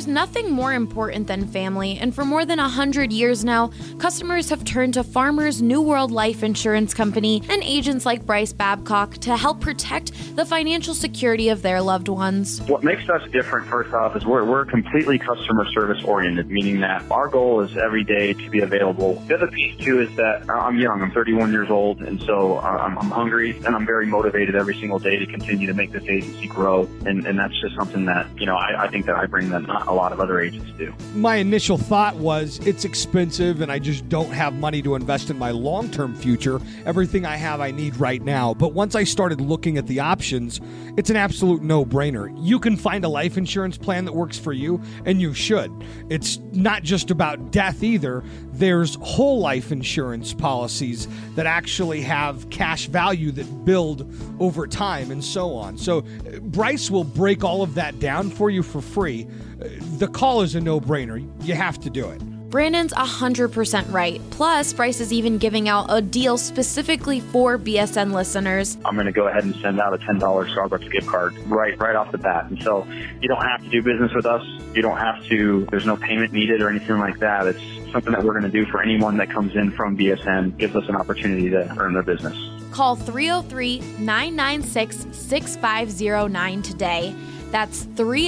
There's nothing more important than family, and for more than 100 years now, customers have turned to Farmers New World Life Insurance Company and agents like Bryce Babcock to help protect the financial security of their loved ones. What makes us different, first off, is we're completely customer service oriented, meaning that our goal is every day to be available. The other piece, too, is that I'm young. I'm 31 years old, and so I'm hungry, and I'm very motivated every single day to continue to make this agency grow, and that's just something that, I think that I bring that not a lot of other agents do. My initial thought was it's expensive, and I just don't have money to invest in my long-term future. Everything I have I need right now. But once I started looking at the options, it's an absolute no-brainer. You can find a life insurance plan that works for you, and you should. It's not just about death either. There's whole life insurance policies that actually have cash value that build over time and so on. So Bryce will break all of that down for you for free. The call is a no-brainer. You have to do it. Brandon's 100% right. Plus, Bryce is even giving out a deal specifically for BSN listeners. I'm going to go ahead and send out a $10 Starbucks gift card right off the bat. And so you don't have to do business with us. You don't have to, there's no payment needed or anything like that. It's something that we're going to do for anyone that comes in from BSN, gives us an opportunity to earn their business. Call 303-996-6509 today. That's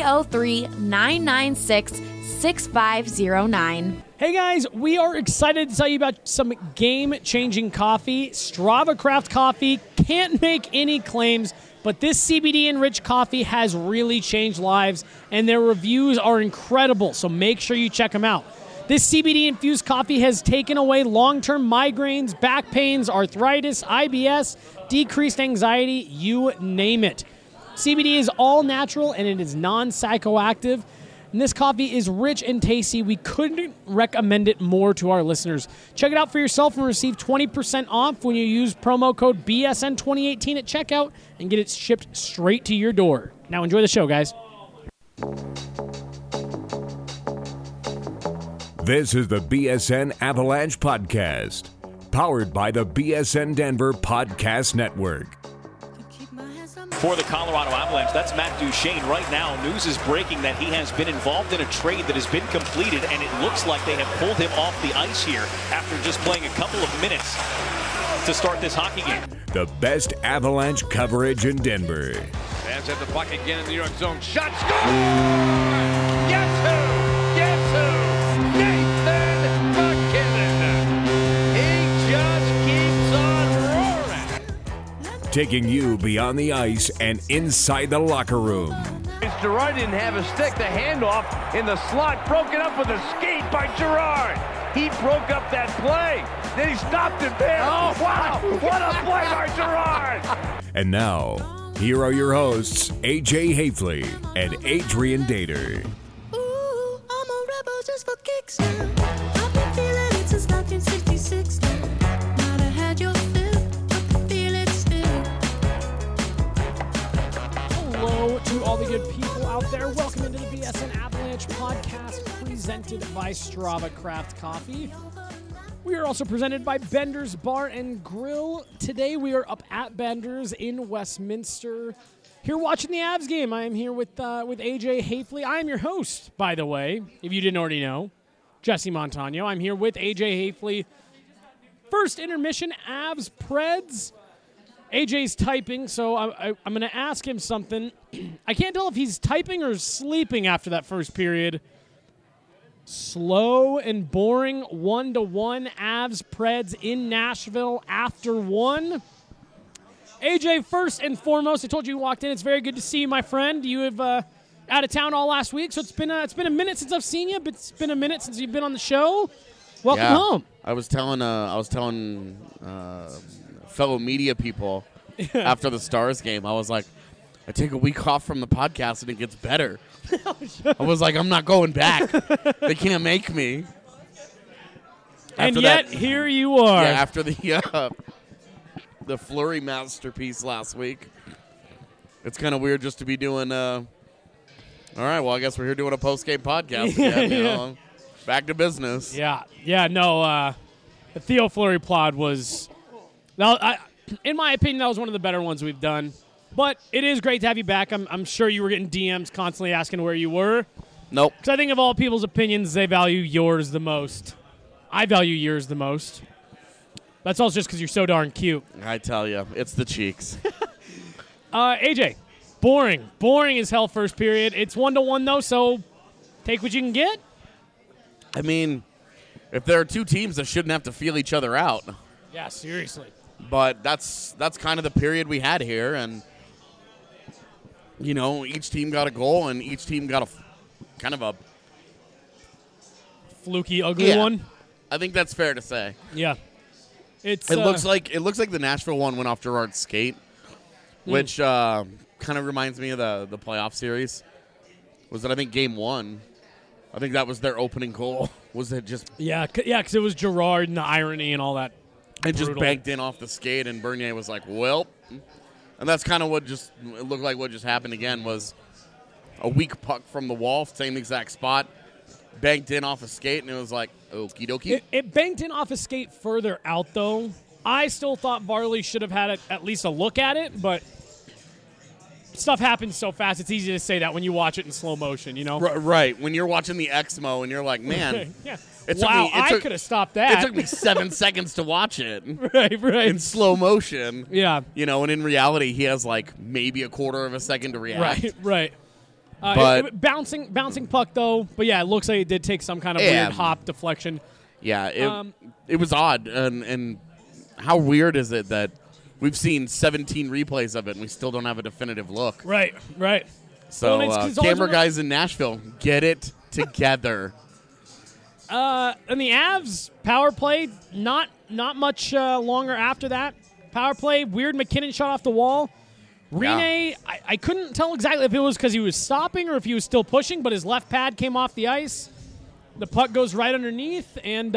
303-996-6509. Hey guys, we are excited to tell you about some game-changing coffee. Strava Craft Coffee can't make any claims, but this CBD-enriched coffee has really changed lives, and their reviews are incredible, so make sure you check them out. This CBD-infused coffee has taken away long-term migraines, back pains, arthritis, IBS, decreased anxiety, you name it. CBD is all natural, and it is non-psychoactive. And this coffee is rich and tasty. We couldn't recommend it more to our listeners. Check it out for yourself and receive 20% off when you use promo code BSN2018 at checkout and get it shipped straight to your door. Now enjoy the show, guys. This is the BSN Avalanche Podcast, powered by the BSN Denver Podcast Network. For the Colorado Avalanche, that's Matt Duchene. Right now, news is breaking that he has been involved in a trade that has been completed, and it looks like they have pulled him off the ice here after just playing a couple of minutes to start this hockey game. The best Avalanche coverage in Denver. Fans at the puck again in the New York zone. Shot, score! Guess who? Guess who? Nathan MacKinnon. He just keeps on roaring. Taking you beyond the ice and inside the locker room. Girard didn't have a stick. The handoff in the slot, broken up with a skate by Girard. He broke up that play. Then he stopped it there. Oh, wow. What a play by Girard. And now, here are your hosts, AJ Hafley and Adrian Dater. Ooh, I'm a rebel just for kicks now. I've been feeling it since 1966 now. Might have had your fill, but I feel it still. Hello to all the good people out there. Welcome into the BSN Avalanche Podcast presented by Strava Craft Coffee. We are also presented by Bender's Bar and Grill. Today we are up at Bender's in Westminster. Here watching the Avs game. I am here with AJ Hafley. I am your host, by the way, if you didn't already know, Jesse Montano. I'm here with AJ Hafley. First intermission, Avs Preds. AJ's typing, so I'm going to ask him something. I can't tell if he's typing or sleeping after that first period. Slow and boring 1-1 Avs Preds in Nashville after one. AJ, first and foremost, I told you walked in. It's very good to see you, my friend. You have out of town all last week, so it's been a minute since I've seen you, but it's been a minute since you've been on the show. Welcome home. I was telling fellow media people after the Stars game, I was like, I take a week off from the podcast and it gets better. I was like, I'm not going back. They can't make me. And yet, here you are. Yeah, after the Fleury masterpiece last week. It's kind of weird just to be doing, all right, well, I guess we're here doing a post-game podcast again. You know, back to business. The Theo Fleury pod was, in my opinion, that was one of the better ones we've done. But it is great to have you back. I'm sure you were getting DMs constantly asking where you were. Nope. Because I think of all people's opinions, they value yours the most. I value yours the most. That's all just because you're so darn cute. I tell you, it's the cheeks. AJ, boring. Boring as hell first period. It's 1-1, though, so take what you can get. I mean, if there are two teams that shouldn't have to feel each other out. Yeah, seriously. But that's kind of the period we had here, and each team got a goal, and each team got kind of a fluky, ugly one. I think that's fair to say. Yeah, it looks like the Nashville one went off Gerard's skate, which kind of reminds me of the playoff series. Was that I think game 1? I think that was their opening goal. Was it just because it was Gerard and the irony and all that. It just banked in off the skate, and Bernier was like, well. And that's kind of what it looked like what just happened again was a weak puck from the wall, same exact spot, banked in off a skate, and it was like, okie dokie. It banked in off a skate further out, though. I still thought Varley should have had at least a look at it, but stuff happens so fast, it's easy to say that when you watch it in slow motion, Right. When you're watching the Exmo, and you're like, man. Yeah. I could have stopped that. It took me 7 seconds to watch it. Right. In slow motion. Yeah. And in reality, he has like maybe a quarter of a second to react. Right. But bouncing puck, though. But, yeah, it looks like it did take some kind of weird hop deflection. Yeah, it was odd. And how weird is it that we've seen 17 replays of it and we still don't have a definitive look? Right. So, camera guys in Nashville, get it together. And the Avs power play, not much longer after that. Power play, weird McKinnon shot off the wall. Rene, I couldn't tell exactly if it was because he was stopping or if he was still pushing, but his left pad came off the ice. The puck goes right underneath, and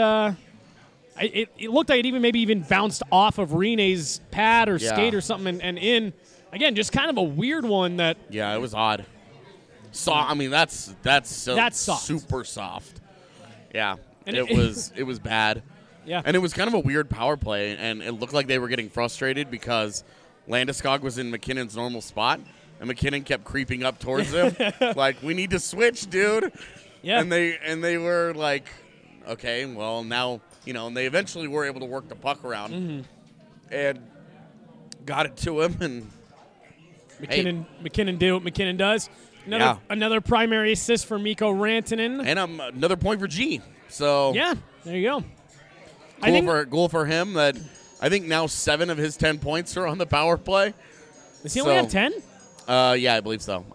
it looked like it maybe even bounced off of Rene's pad or skate or something and in. Again, just kind of a weird one that... Yeah, it was odd. I mean, that's soft. Super soft. Yeah, and it was bad. Yeah. And it was kind of a weird power play, and it looked like they were getting frustrated because Landeskog was in McKinnon's normal spot, and McKinnon kept creeping up towards him, like, we need to switch, dude. Yeah. And they were like, okay, well, now, and they eventually were able to work the puck around and got it to him, and McKinnon did what McKinnon does. Another primary assist for Mikko Rantanen. And another point for G. So yeah, there you go. Goal for him. That I think now 7 of his 10 points are on the power play. Does he only have 10? Yeah, I believe so.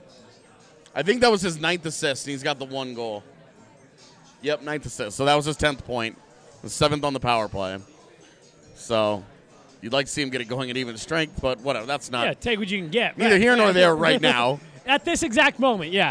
I think that was his 9th assist, and he's got the 1 goal. Yep, 9th assist. So that was his 10th point. The 7th on the power play. So you'd like to see him get it going at even strength, but whatever. That's not. Yeah, take what you can get. Neither here nor there right now. At this exact moment, yeah.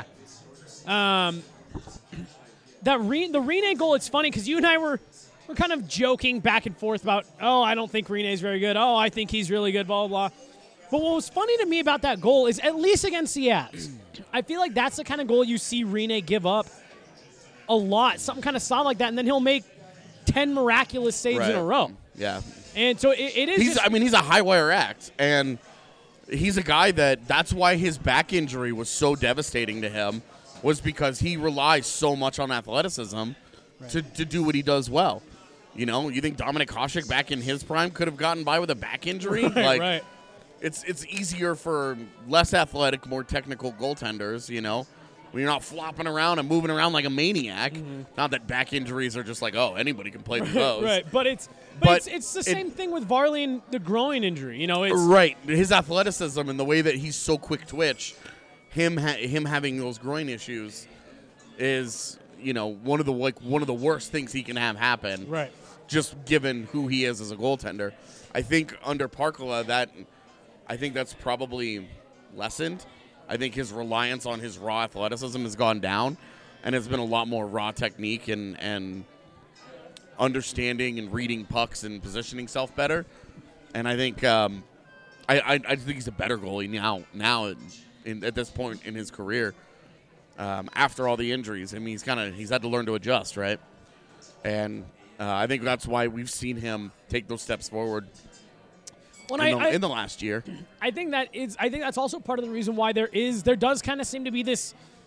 The Rene goal, it's funny because you and I were kind of joking back and forth about, I don't think Rene's very good. Oh, I think he's really good, blah, blah, blah. But what was funny to me about that goal is, at least against the Avs, I feel like that's the kind of goal you see Rene give up a lot, something kind of solid like that, and then he'll make 10 miraculous saves in a row. Yeah. And so it is. He's a high wire act, and he's a guy that's why his back injury was so devastating to him, was because he relies so much on athleticism to do what he does well. You think Dominik Hasek back in his prime could have gotten by with a back injury? Right. It's easier for less athletic, more technical goaltenders, when you're not flopping around and moving around like a maniac. Not that back injuries are just like, anybody can play with those. Right, but it's the same thing with Varley and the groin injury. Right. His athleticism and the way that he's so quick twitch, him having those groin issues is, one of the worst things he can have happen. Right. Just given who he is as a goaltender. I think under Parkala that's probably lessened. I think his reliance on his raw athleticism has gone down, and it's been a lot more raw technique and understanding and reading pucks and positioning self better. And I think I think he's a better goalie now at this point in his career. After all the injuries, I mean, he's had to learn to adjust, right? And I think that's why we've seen him take those steps forward. In the last year. I think that's also part of the reason why there does kind of seem to be this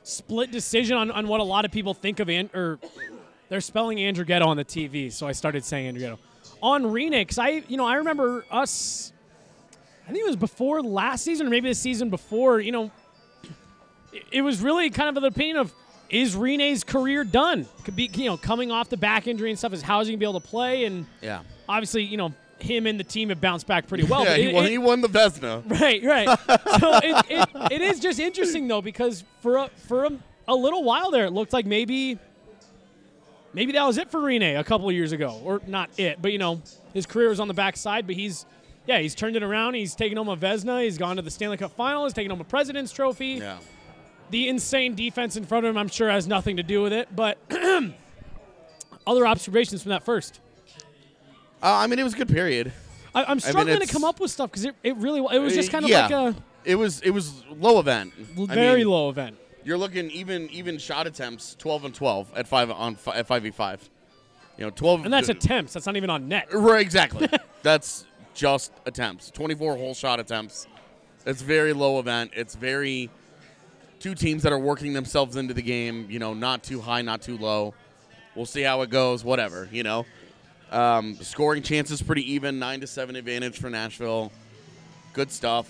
split decision on what a lot of people think of or they're spelling Andrighetto on the TV, so I started saying Andrighetto. On Rene, because I remember us, I think it was before last season or maybe the season before, it was really kind of the opinion of, is Rene's career done? Could be, coming off the back injury and stuff, is how is he going to be able to play? And obviously, him and the team have bounced back pretty well. Yeah, he won the Vezina. Right. So it is just interesting, though, because for a little while there, it looked like maybe that was it for Rene a couple of years ago. Or not it, but, his career was on the backside. But he's turned it around. He's taken home a Vezina. He's gone to the Stanley Cup Final. He's taken home a President's Trophy. Yeah. The insane defense in front of him, I'm sure, has nothing to do with it. But other observations from that first? It was a good period. I'm struggling to come up with stuff because it was just kind of like a... It was low event. Very low event. You're looking even shot attempts 12-12 at 5v5. 12. And that's attempts. That's not even on net. Right, exactly. That's just attempts. 24 whole shot attempts. It's very low event. It's very two teams that are working themselves into the game. Not too high, not too low. We'll see how it goes. Whatever. Scoring chances pretty even. 9-7 advantage for Nashville. Good stuff.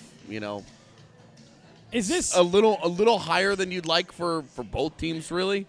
Is this a little higher than you'd like for both teams, really?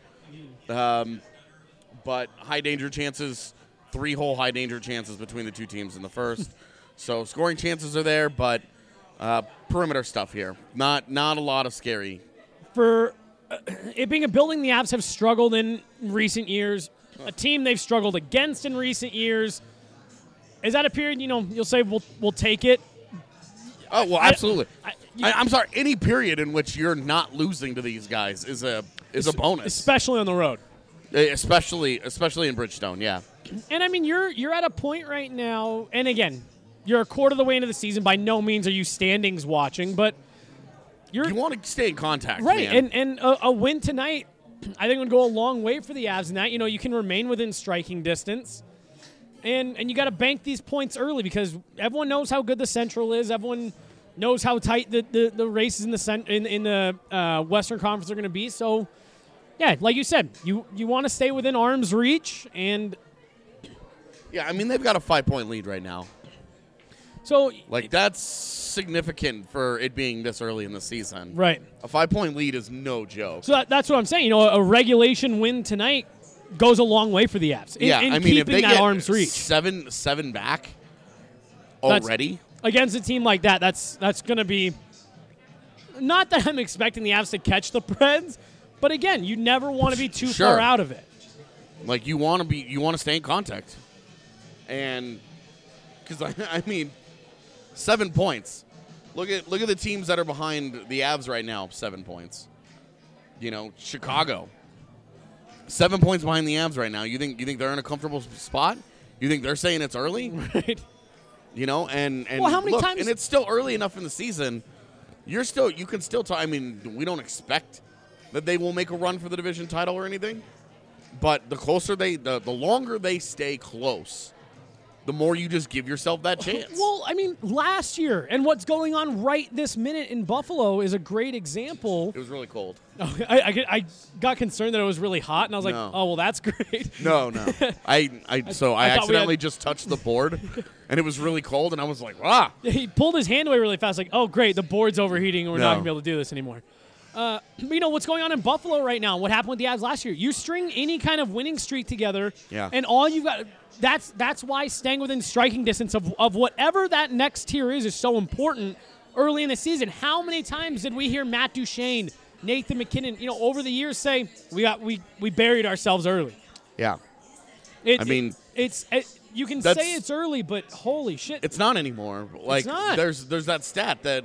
But high danger chances, 3 whole high danger chances between the two teams in the first. So scoring chances are there, but perimeter stuff here. Not a lot of scary. For it being a building the Avs have struggled in recent years, a team they've struggled against in recent years. Is that a period, you'll say we'll take it? Oh, well, absolutely. I'm sorry. Any period in which you're not losing to these guys is a bonus, especially on the road. Especially in Bridgestone, yeah. And you're at a point right now, and again, you're a quarter of the way into the season. By no means are you standings watching, but you want to stay in contact, right? man. And a win tonight, I think, would go a long way for the Avs in that. You can remain within striking distance. And you got to bank these points early because everyone knows how good the Central is. Everyone knows how tight the races in the Western Conference are going to be. So, yeah, like you said, you want to stay within arm's reach. And yeah, they've got a 5-point lead right now. So, that's significant for it being this early in the season. Right. A 5-point lead is no joke. So that's what I'm saying. A regulation win tonight goes a long way for the Avs. In keeping if they that get arm's reach. Seven back already against a team like that, that's going to be. Not that I'm expecting the Avs to catch the Preds, but again, you never want to be too far out of it. You want to stay in contact, and because 7 points. Look at the teams that are behind the Avs right now. 7 points. Chicago. 7 points behind the Avs right now. You think they're in a comfortable spot? You think they're saying it's early? Right. And well, how many times? And it's still early enough in the season. You can still talk. We don't expect that they will make a run for the division title or anything. But the longer they stay close, the more you just give yourself that chance. Well, last year and what's going on right this minute in Buffalo is a great example. It was really cold. Oh, I got concerned that it was really hot, and I was like, oh, well, that's great. No. I accidentally just touched the board, and it was really cold, and I was like, ah. He pulled his hand away really fast, like, oh, great, the board's overheating, and we're not going to be able to do this anymore. But what's going on in Buffalo right now, what happened with the Avs last year, you string any kind of winning streak together, and all you've got – that's why staying within striking distance of whatever that next tier is so important early in the season. How many times did we hear Matt Duchene, Nathan MacKinnon, over the years say we buried ourselves early? Yeah. You can say it's early, but holy shit. It's not anymore. It's not. There's that stat that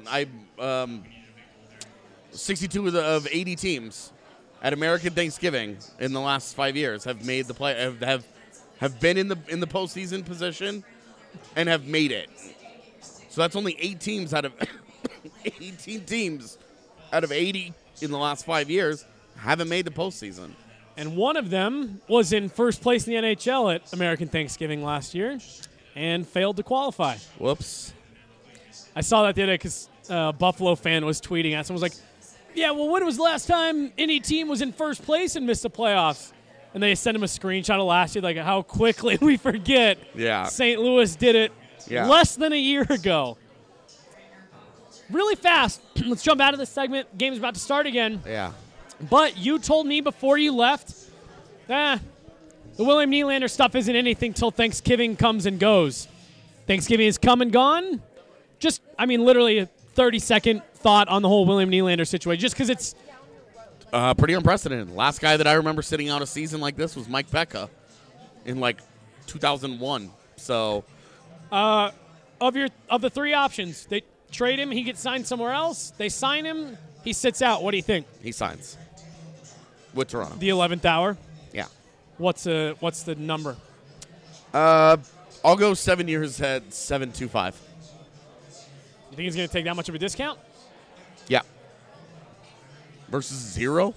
62 of 80 teams at American Thanksgiving in the last 5 years have made the play have been in the postseason position and have made it. So that's only 8 teams out of 18 teams out of 80 in the last 5 years haven't made the postseason. And one of them was in first place in the NHL at American Thanksgiving last year and failed to qualify. Whoops. I saw that the other day because a Buffalo fan was tweeting at someone was like, Yeah, well, when was the last time any team was in first place and missed the playoffs? And they sent him a screenshot of last year, like how quickly we forget. Yeah. St. Louis did it less than a year ago. Really fast. Let's jump out of this segment. Game's about to start again. Yeah. But you told me before you left, the William Nylander stuff isn't anything till Thanksgiving comes and goes. Thanksgiving has come and gone. Just, literally a 30-second thought on the whole William Nylander situation, just because it's pretty unprecedented. Last guy that I remember sitting out a season like this was Mike Becca in 2001. So, of the three options, they trade him, he gets signed somewhere else. They sign him, he sits out. What do you think? He signs with Toronto. The 11th hour. Yeah. What's the number? I'll go 7 years ahead, 7.25. You think he's going to take that much of a discount? Yeah. Versus 0?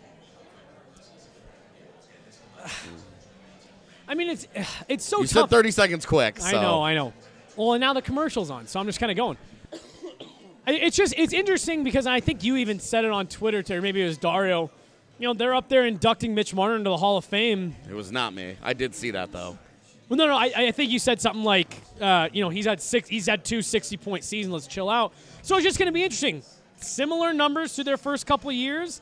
It's so you tough. said 30 seconds quick. So. I know. Well, and now the commercial's on, so I'm just kind of going. It's interesting because I think you even said it on Twitter, or maybe it was Dario. They're up there inducting Mitch Marner into the Hall of Fame. It was not me. I did see that, though. Well, no. I think you said something like, he's had 2 60-point seasons. Let's chill out. So it's just going to be interesting. Similar numbers to their first couple of years.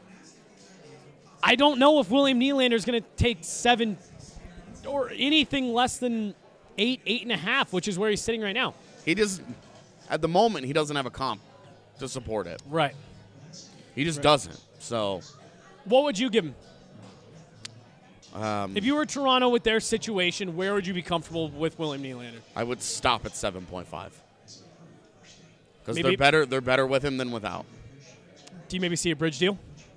I don't know if William Nylander is going to take 7 or anything less than 8.5, which is where he's sitting right now. He just, at the moment, he doesn't have a comp to support it. Right. He just doesn't. So, what would you give him? If you were Toronto with their situation, where would you be comfortable with William Nylander? I would stop at 7.5. Because Maybe- they're better with him than without. Do you maybe see a bridge deal?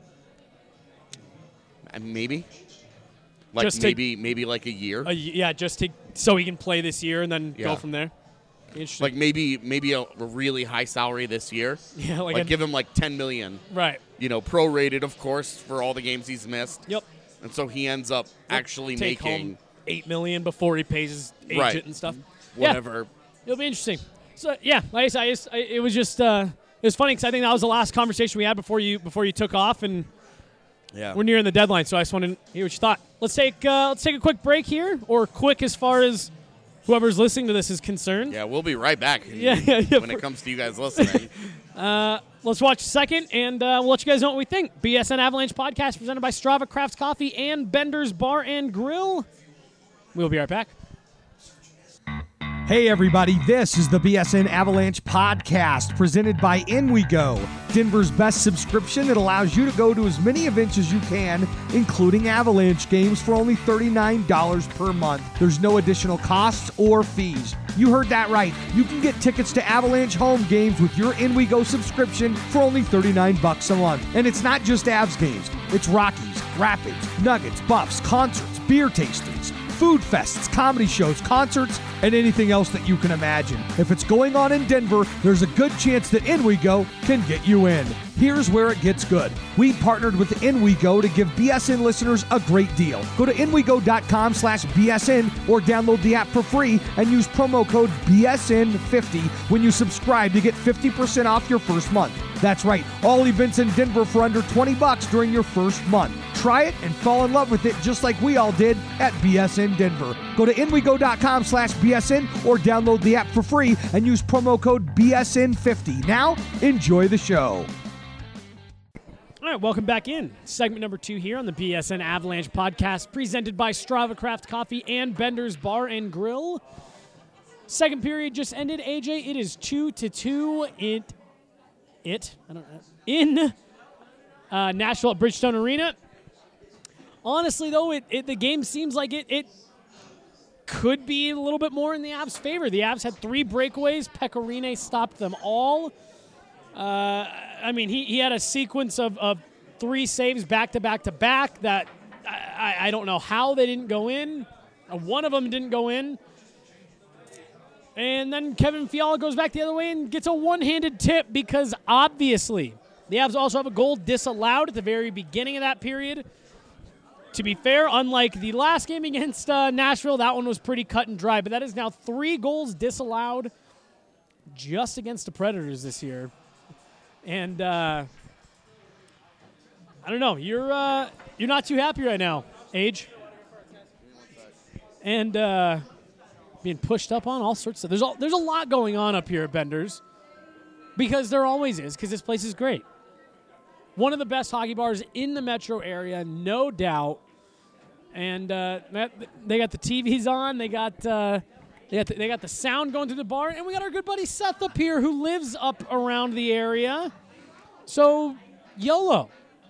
And maybe. Just take- maybe like a year. So he can play this year and then go Yeah. from there. Interesting. Like maybe a really high salary this year. Yeah, like give him like $10 million. Right. Prorated, of course, for all the games he's missed. Yep. And so he ends up actually Take making home $8 million before he pays his agent Right. and stuff. whatever. Yeah, it'll be interesting. So yeah, like I said, it was just it was funny because I think that was the last conversation we had before you took off, and we're nearing the deadline. So I just wanted to hear what you thought. Let's take a quick break here, or quick as far as whoever's listening to this is concerned. Yeah, we'll be right back. Yeah. When it comes to you guys listening. Let's watch a second, and we'll let you guys know what we think. BSN Avalanche podcast presented by Strava Craft Coffee and Bender's Bar and Grill. We'll be right back. Hey everybody, this is the BSN Avalanche podcast presented by In We Go, Denver's best subscription that allows you to go to as many events as you can, including Avalanche games, for only $39 per month. There's no additional costs or fees. You heard that right. You can get tickets to Avalanche home games with your In We Go subscription for only $39 a month. And it's not just Avs games. It's Rockies, Rapids, Nuggets, Buffs, concerts, beer tastings, food fests, comedy shows, concerts, and anything else that you can imagine. If it's going on in Denver, there's a good chance that In We Go can get you in. Here's where it gets good. We partnered with In We Go to give BSN listeners a great deal. Go to inwego.com/BSN or download the app for free and use promo code BSN50 when you subscribe to get 50% off your first month. That's right, all events in Denver for under $20 during your first month. Try it and fall in love with it just like we all did at BSN Denver. Go to inwego.com/BSN or download the app for free and use promo code BSN50. Now, enjoy the show. All right, welcome back in. Segment number 2 here on the BSN Avalanche podcast, presented by Strava Craft Coffee and Bender's Bar and Grill. Second period just ended. AJ, it is 2-2 in Nashville at Bridgestone Arena. Honestly, though, the game seems like it could be a little bit more in the Avs' favor. The Avs had 3 breakaways. Pekka Rinne stopped them all. He had a sequence of 3 saves back-to-back-to-back that I don't know how they didn't go in. One of them didn't go in. And then Kevin Fiala goes back the other way and gets a one-handed tip because obviously the Avs also have a goal disallowed at the very beginning of that period. To be fair, unlike the last game against Nashville, that one was pretty cut and dry. But that is now 3 goals disallowed just against the Predators this year. And I don't know. You're not too happy right now, Age. And being pushed up on all sorts of stuff. There's a lot going on up here at Bender's because there always is, because this place is great. One of the best hockey bars in the metro area, no doubt. And they got the TVs on. They got the sound going through the bar, and we got our good buddy Seth up here who lives up around the area. So, YOLO.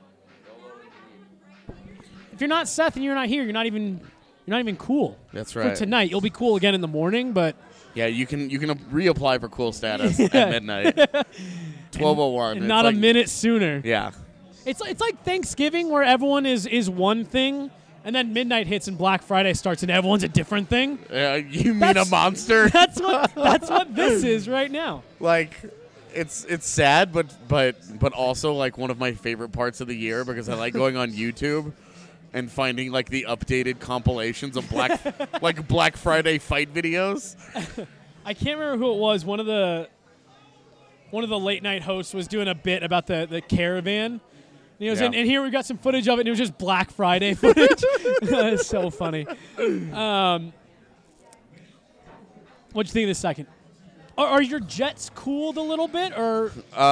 If you're not Seth and you're not here, you're not even cool. That's right. For tonight, you'll be cool again in the morning, but Yeah, you can reapply for cool status at midnight. 12:01. and not a minute sooner. Yeah. It's like Thanksgiving where everyone is one thing, and then midnight hits and Black Friday starts and everyone's a different thing. You mean a monster? That's what this is right now. Like, it's sad, but also like one of my favorite parts of the year because I like going on YouTube and finding like the updated compilations of Black Friday fight videos. I can't remember who it was. One of the late night hosts was doing a bit about the caravan. And he was and here we got some footage of it, and it was just Black Friday footage. It's so funny. What'd you think of this second? Are your Jets cooled a little bit, or?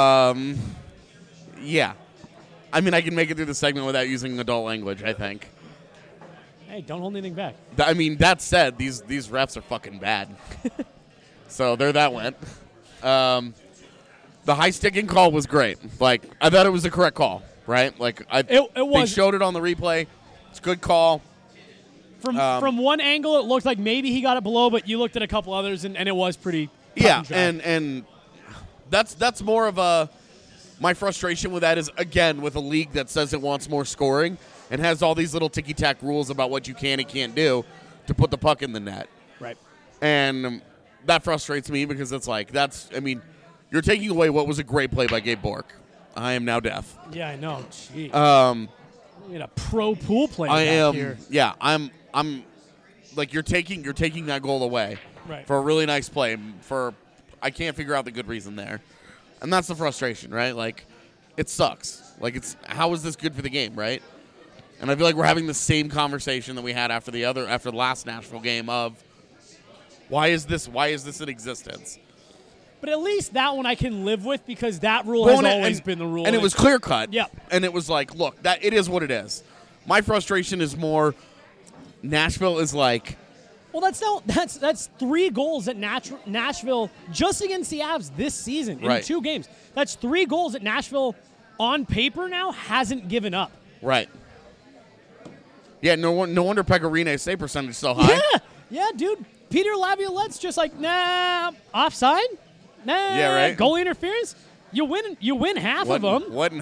Yeah. I mean, I can make it through the segment without using adult language, I think. Hey, don't hold anything back. I mean, that said, these refs are fucking bad. So there that went. The high sticking call was great. Like, I thought it was the correct call, right? Like, it was. They showed it on the replay. It's a good call. From one angle, it looked like maybe he got it below, but you looked at a couple others, and it was pretty. Yeah, and that's more of a. My frustration with that is, again, with a league that says it wants more scoring and has all these little ticky-tack rules about what you can and can't do to put the puck in the net. Right. And that frustrates me because it's like, you're taking away what was a great play by Gabe Bork. I am now deaf. Yeah, I know. Jeez. We had a pro pool player back here. Yeah, I'm like, you're taking that goal away. Right. For a really nice play. I can't figure out the good reason there. And that's the frustration, right? Like, it sucks. Like, how is this good for the game, right? And I feel like we're having the same conversation that we had after the last Nashville game of why is this in existence? But at least that one I can live with because that rule has always been the rule. And it was clear cut. Yep. And it was like, look, it is what it is. My frustration is more Nashville is like, well, that's 3 goals at Nashville just against the Avs this season in 2 games. That's 3 goals that Nashville on paper now hasn't given up. Right. Yeah, no wonder Pekarine's save percentage is so high. Yeah, dude. Peter Laviolette's just like, nah, offside? Nah, yeah, right. Goal interference? You win half of them.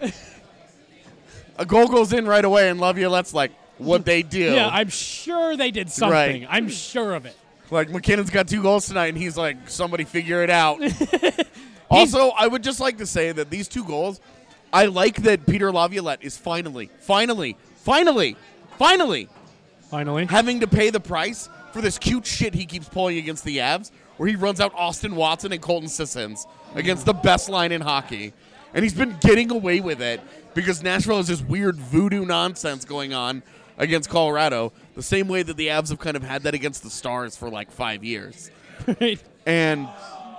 A goal goes in right away, and Laviolette's like, what they do. Yeah, I'm sure they did something. Right. I'm sure of it. Like, McKinnon's got 2 goals tonight, and he's like, somebody figure it out. Also, I would just like to say that these 2 goals, I like that Peter Laviolette is finally having to pay the price for this cute shit he keeps pulling against the Avs, where he runs out Austin Watson and Colton Sissons against the best line in hockey. And he's been getting away with it because Nashville has this weird voodoo nonsense going on against Colorado, the same way that the Avs have kind of had that against the Stars for like 5 years. Right. And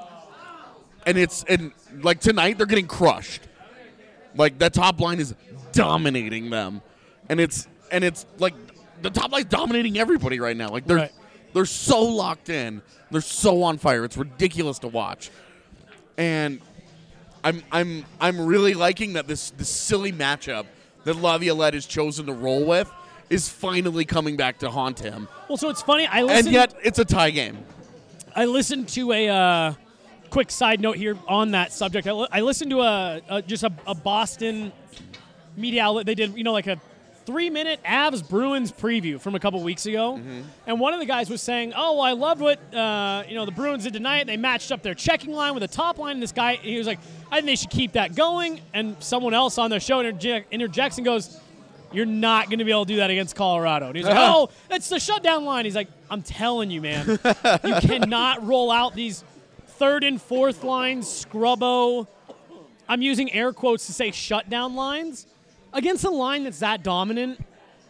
like tonight they're getting crushed. Like that top line is dominating them. And it's like the top line's dominating everybody right now. Like they're so locked in. They're so on fire. It's ridiculous to watch. And I'm really liking that this silly matchup that Laviolette has chosen to roll with is finally coming back to haunt him. Well, so it's funny. And yet it's a tie game. I listened to a quick side note here on that subject. I listened to a Boston media outlet. They did like a 3-minute Avs Bruins preview from a couple weeks ago, and one of the guys was saying, "Oh, well, I loved what the Bruins did tonight. They matched up their checking line with the top line." And this guy, he was like, "I think they should keep that going." And someone else on their show interjects and goes, "You're not going to be able to do that against Colorado." And he's like, "Oh, that's the shutdown line." He's like, "I'm telling you, man, you cannot roll out these 3rd and 4th lines, scrubbo." I'm using air quotes to say shutdown lines. against a line that's that dominant.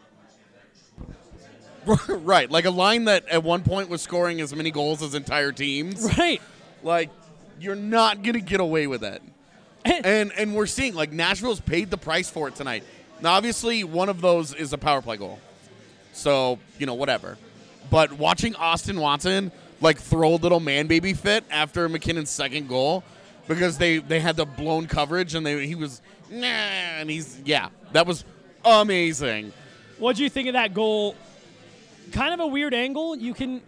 Right, like a line that at one point was scoring as many goals as entire teams. Right. Like, you're not going to get away with it. And we're seeing, like, Nashville's paid the price for it tonight. Now, obviously, one of those is a power play goal. So, whatever. But watching Austin Watson, like, throw a little man-baby fit after McKinnon's second goal because they had the blown coverage and he was, nah, and that was amazing. What'd you think of that goal? Kind of a weird angle. You can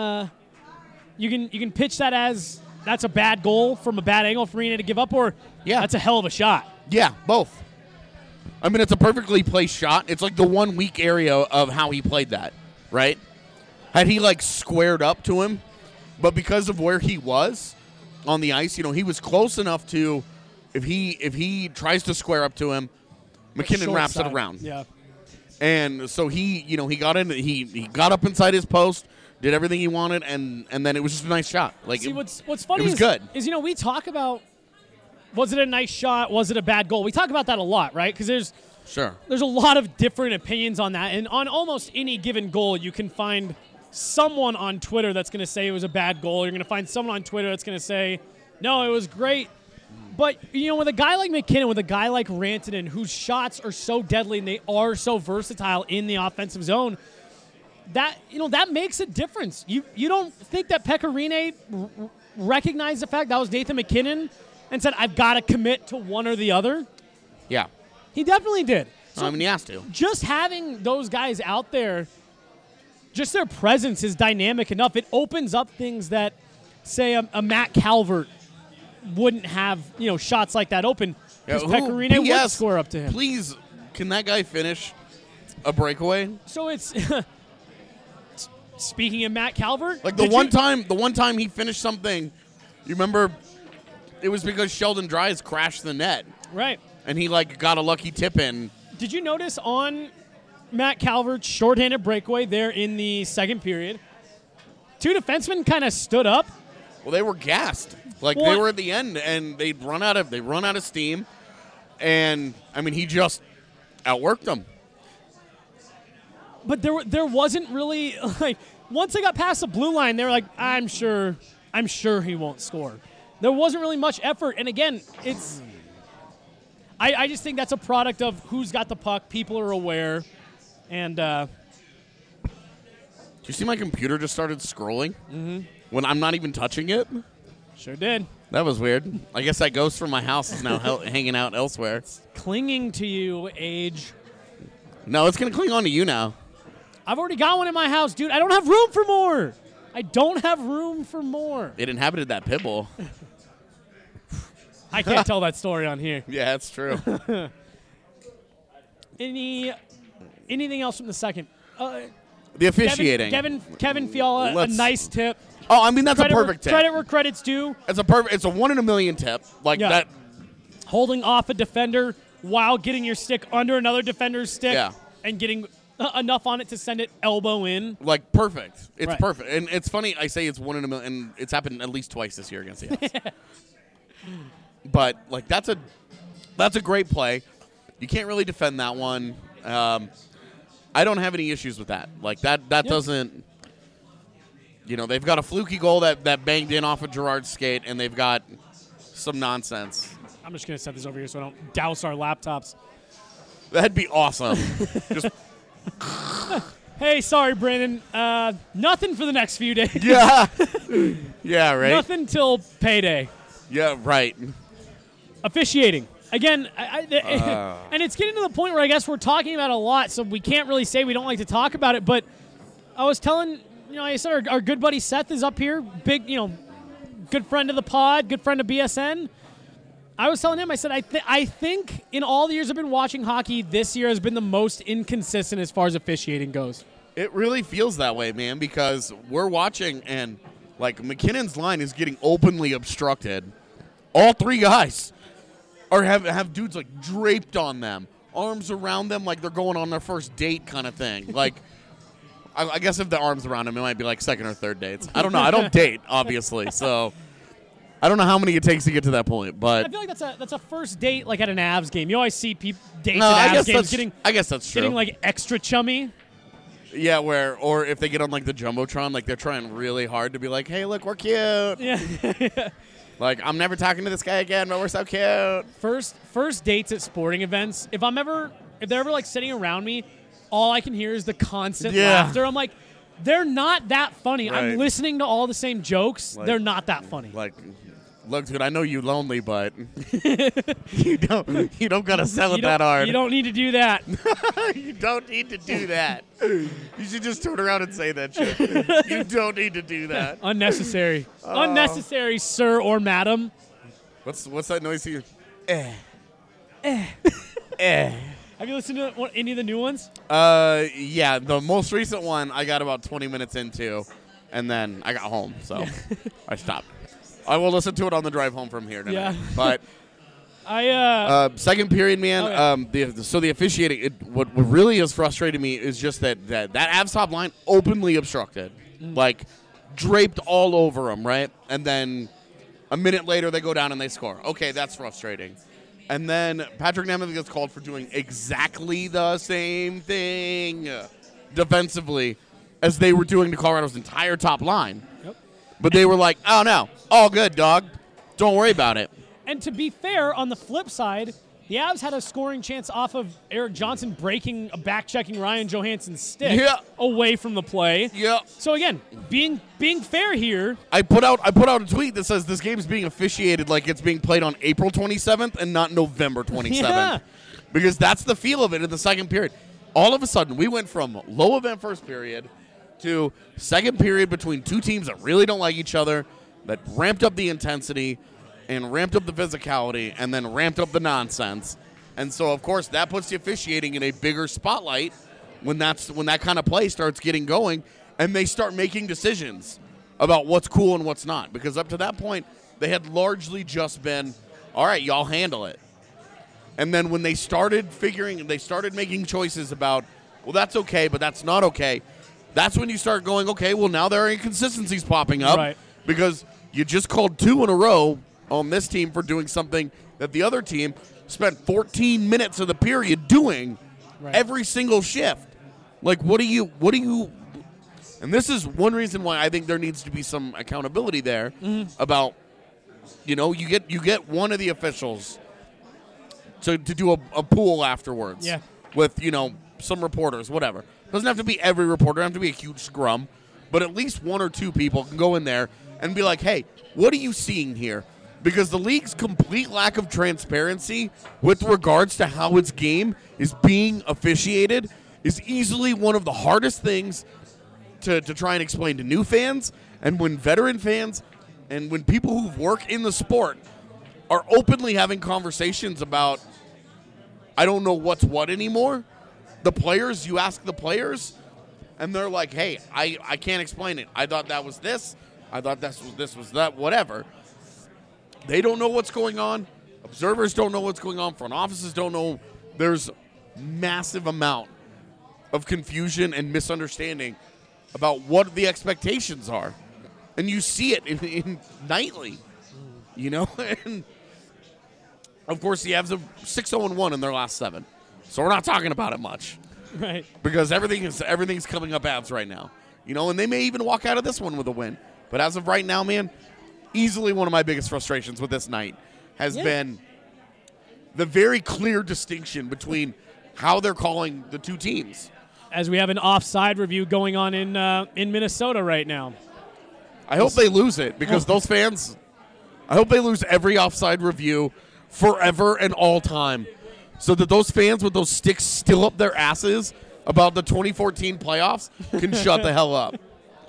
pitch that as that's a bad goal from a bad angle for Rinne to give up, or that's a hell of a shot. Yeah, both. I mean, it's a perfectly placed shot. It's like the one weak area of how he played that, right? Had he like squared up to him, but because of where he was on the ice, he was close enough to if he tries to square up to him, McKinnon wraps it around. Yeah. And so he got in. He got up inside his post, did everything he wanted, and then it was just a nice shot. Like, see, what's funny was good. is we talk about was it a nice shot, was it a bad goal? We talk about that a lot, right? Because there's a lot of different opinions on that, and on almost any given goal, you can find someone on Twitter that's going to say it was a bad goal. You're going to find someone on Twitter that's going to say, no, it was great. But, with a guy like McKinnon, with a guy like Rantanen, whose shots are so deadly and they are so versatile in the offensive zone, that makes a difference. You don't think that Pekka Rinne recognized the fact that was Nathan McKinnon and said, I've got to commit to one or the other? Yeah. He definitely did. So he has to. Just having those guys out there, just their presence is dynamic enough. It opens up things that, say, a Matt Calvert wouldn't have, shots like that open because Pekka Rinne would score up to him. Please, can that guy finish a breakaway? So it's speaking of Matt Calvert, like the one time he finished something, you remember, it was because Sheldon Dries crashed the net, right? And he got a lucky tip in. Did you notice on Matt Calvert's shorthanded breakaway there in the second period, two defensemen kind of stood up? Well, they were gassed. They were at the end, and they run out of steam, and I mean he just outworked them. But there wasn't really once they got past the blue line, they were like, I'm sure he won't score. There wasn't really much effort, and again, it's I just think that's a product of who's got the puck. People are aware, and do you see my computer just started scrolling when I'm not even touching it? Sure did. That was weird. I guess that ghost from my house is now hanging out elsewhere. It's clinging to you, Age. No, it's going to cling on to you now. I've already got one in my house, dude. I don't have room for more. I don't have room for more. It inhabited that pit bull. I can't tell that story on here. Yeah, that's true. Anything else from the second? The officiating. Kevin Fiala, a nice tip. Oh, I mean, that's a perfect tip. Credit where credit's due. It's a 1 in a million tip. That. Holding off a defender while getting your stick under another defender's stick and getting enough on it to send it elbow in. Perfect. It's perfect. And it's funny, I say it's 1 in a million, and it's happened at least twice this year against the Avs. But, that's a great play. You can't really defend that one. I don't have any issues with that. That doesn't... they've got a fluky goal that banged in off of Gerard's skate, and they've got some nonsense. I'm just going to set this over here so I don't douse our laptops. That'd be awesome. Just Hey, sorry, Brandon. Nothing for the next few days. Yeah. Yeah, right. Nothing till payday. Yeah, right. Officiating. Again, and it's getting to the point where I guess we're talking about it a lot, so we can't really say we don't like to talk about it, but I was telling, I said our good buddy Seth is up here, big, good friend of the pod, good friend of BSN. I was telling him, I said, I think in all the years I've been watching hockey, this year has been the most inconsistent as far as officiating goes. It really feels that way, man, because we're watching and, McKinnon's line is getting openly obstructed. All three guys have dudes, draped on them, arms around them like they're going on their first date kind of thing. I guess if the arms around them, it might be second or third dates. I don't know. I don't date, obviously, so... I don't know how many it takes to get to that point, I but feel like that's a first date like at an Avs game. You always see dates no, at I Avs guess games that's getting I guess that's true. getting like extra chummy. Yeah, or if they get on like the jumbotron, like they're trying really hard to be like, "Hey, look, we're cute." Yeah. Like, I'm never talking to this guy again, but we're so cute. First dates at sporting events. If they're ever like sitting around me, all I can hear is the constant laughter. I'm like, they're not that funny. Right. I'm listening to all the same jokes. Like- they're not that funny. Like, look, dude, I know you lonely, but you don't gotta sell it that hard. You don't need to do that. You don't need to do that. You should just turn around and say that shit. You don't need to do that. Unnecessary. Unnecessary, sir or madam. What's that noise here? Have you listened to any of the new ones? Yeah, the most recent one I got about 20 minutes into, and then I got home, so I stopped. I will listen to it on the drive home from here tonight. Yeah. But second period, man. The officiating. What really has frustrated me is just that Avs top line openly obstructed, like draped all over them, right? And then a minute later they go down and they score. Okay, that's frustrating. And then Patrick Nemeth gets called for doing exactly the same thing defensively as they were doing to Colorado's entire top line. Yep. But they were like, "Oh no, all good, dog. Don't worry about it." And to be fair, on the flip side, the Avs had a scoring chance off of Eric Johnson back-checking Ryan Johansson's stick away from the play. Yeah. So again, being fair here. I put out a tweet that says this game is being officiated like it's being played on April 27th and not November 27th. Yeah. Because that's the feel of it in the second period. All of a sudden, we went from low event first period to second period between two teams that really don't like each other, that ramped up the intensity and ramped up the physicality and then ramped up the nonsense. And so, of course, that puts the officiating in a bigger spotlight when that kind of play starts getting going and they start making decisions about what's cool and what's not. Because up to that point, they had largely just been, all right, y'all handle it. And then when they started making choices about, well, that's okay, but that's not okay, that's when you start going, okay, well, now there are inconsistencies popping up. Right. Because you just called 2 in a row on this team for doing something that the other team spent 14 minutes of the period doing every single shift. Like, what do you and this is one reason why I think there needs to be some accountability there about, you get one of the officials to do a pool afterwards with, some reporters, whatever. Doesn't have to be every reporter, doesn't have to be a huge scrum, but at least 1 or 2 people can go in there and be like, hey, what are you seeing here? Because the league's complete lack of transparency with regards to how its game is being officiated is easily one of the hardest things to try and explain to new fans. And when veteran fans and when people who work in the sport are openly having conversations about, I don't know what's what anymore, you ask the players, and they're like, hey, I can't explain it. I thought that was this. I thought this was that, whatever. They don't know what's going on. Observers don't know what's going on. Front offices don't know. There's massive amount of confusion and misunderstanding about what the expectations are. And you see it in nightly, And, of course, the Avs have 6-0-1 in their last 7. So we're not talking about it much. Right. Because everything's coming up Avs right now. And they may even walk out of this one with a win. But as of right now, man, easily one of my biggest frustrations with this night has been the very clear distinction between how they're calling the two teams. As we have an offside review going on in Minnesota right now. I hope they lose it because those fans, I hope they lose every offside review forever and all time so that those fans with those sticks still up their asses about the 2014 playoffs can shut the hell up.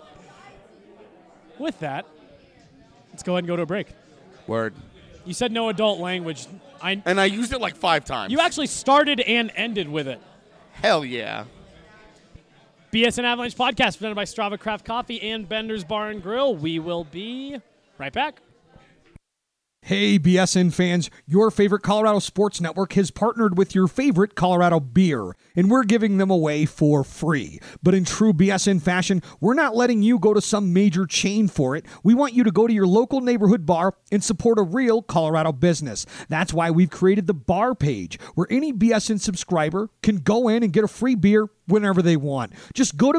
With that, let's go ahead and go to a break. Word. You said no adult language. And I used it like 5 times. You actually started and ended with it. Hell yeah. BSN Avalanche podcast presented by Strava Craft Coffee and Bender's Bar and Grill. We will be right back. Hey, BSN fans, your favorite Colorado Sports Network has partnered with your favorite Colorado beer, and we're giving them away for free. But in true BSN fashion, we're not letting you go to some major chain for it. We want you to go to your local neighborhood bar and support a real Colorado business. That's why we've created the bar page, where any BSN subscriber can go in and get a free beer whenever they want. Just go to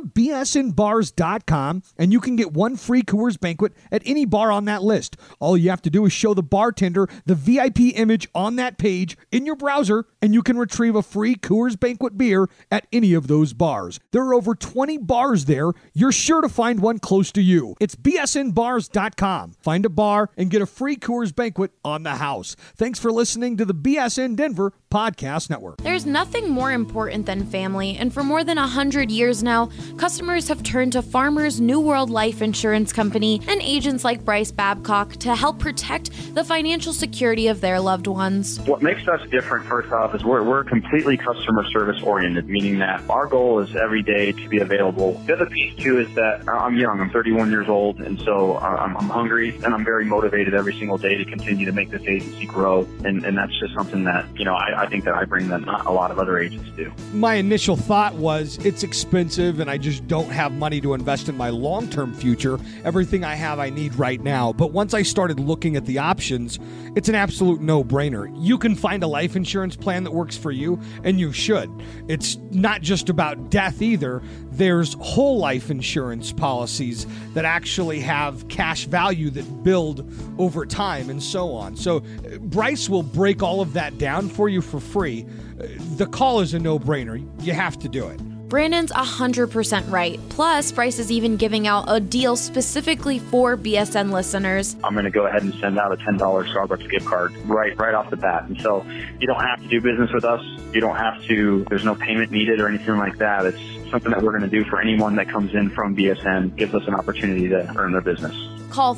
bsnbars.com and you can get one free Coors Banquet at any bar on that list. All you have to do is show the bartender the VIP image on that page in your browser, and you can retrieve a free Coors Banquet beer at any of those bars. There are over 20 bars there. You're sure to find one close to you. It's bsnbars.com. Find a bar and get a free Coors Banquet on the house. Thanks for listening to the BSN Denver Podcast Network. There's nothing more important than family, and for more than 100 years now, customers have turned to Farmers New World Life Insurance Company and agents like Bryce Babcock to help protect the financial security of their loved ones. What makes us different, first off, is we're completely customer service oriented, meaning that our goal is every day to be available. The other piece, too, is that I'm young. I'm 31 years old, and so I'm hungry, and I'm very motivated every single day to continue to make this agency grow, and that's just something that, I think that I bring that not a lot of other agents do. My initial thought was it's expensive and I just don't have money to invest in my long-term future. Everything I have I need right now. But once I started looking at the options, it's an absolute no-brainer. You can find a life insurance plan that works for you, and you should. It's not just about death either. There's whole life insurance policies that actually have cash value that build over time and so on. So Bryce will break all of that down for you for free. The call is a no-brainer. You have to do it. Brandon's 100% right. Plus, Bryce is even giving out a deal specifically for BSN listeners. I'm going to go ahead and send out a $10 Starbucks gift card right off the bat. And so you don't have to do business with us. You don't have to, there's no payment needed or anything like that. It's something that we're going to do for anyone that comes in from BSN, gives us an opportunity to earn their business. Call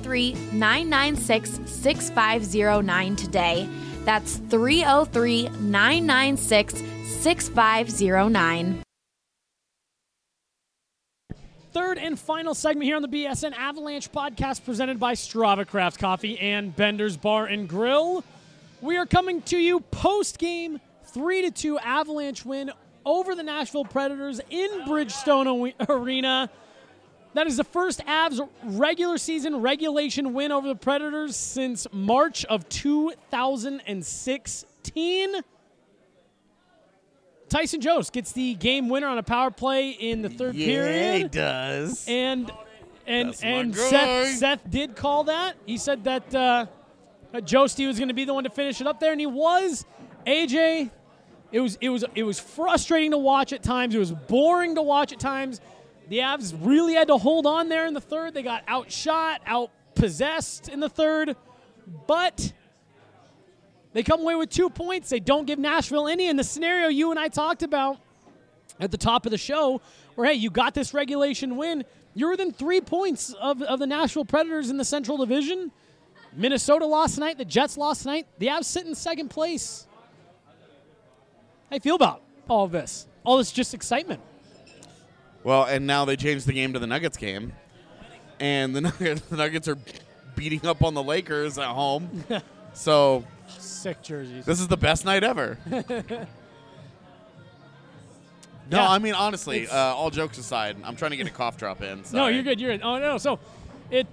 303-996-6509 today. That's 303-996-6509. Third and final segment here on the BSN Avalanche podcast presented by Strava Craft Coffee and Bender's Bar and Grill. We are coming to you post-game 3-2 Avalanche win over the Nashville Predators in Bridgestone Arena. That is the first Avs regular season regulation win over the Predators since March of 2016. Tyson Jost gets the game winner on a power play in the third period. Yeah, he does. And Seth did call that. He said that Josty was going to be the one to finish it up there, and he was. AJ, it was frustrating to watch at times. It was boring to watch at times. The Avs really had to hold on there in the third. They got outshot, outpossessed in the third, but they come away with 2 points. They don't give Nashville any. In the scenario you and I talked about at the top of the show, where, hey, you got this regulation win. You're within 3 points of the Nashville Predators in the Central Division. Minnesota lost tonight. The Jets lost tonight. The Avs sit in second place. How do you feel about all of this? All this just excitement. Well, and now they changed the game to the Nuggets game. And the Nuggets are beating up on the Lakers at home. So sick jerseys. This is the best night ever. No, I mean, honestly, all jokes aside, I'm trying to get a cough drop in. Sorry. No, you're good. You're good. Oh, no. So it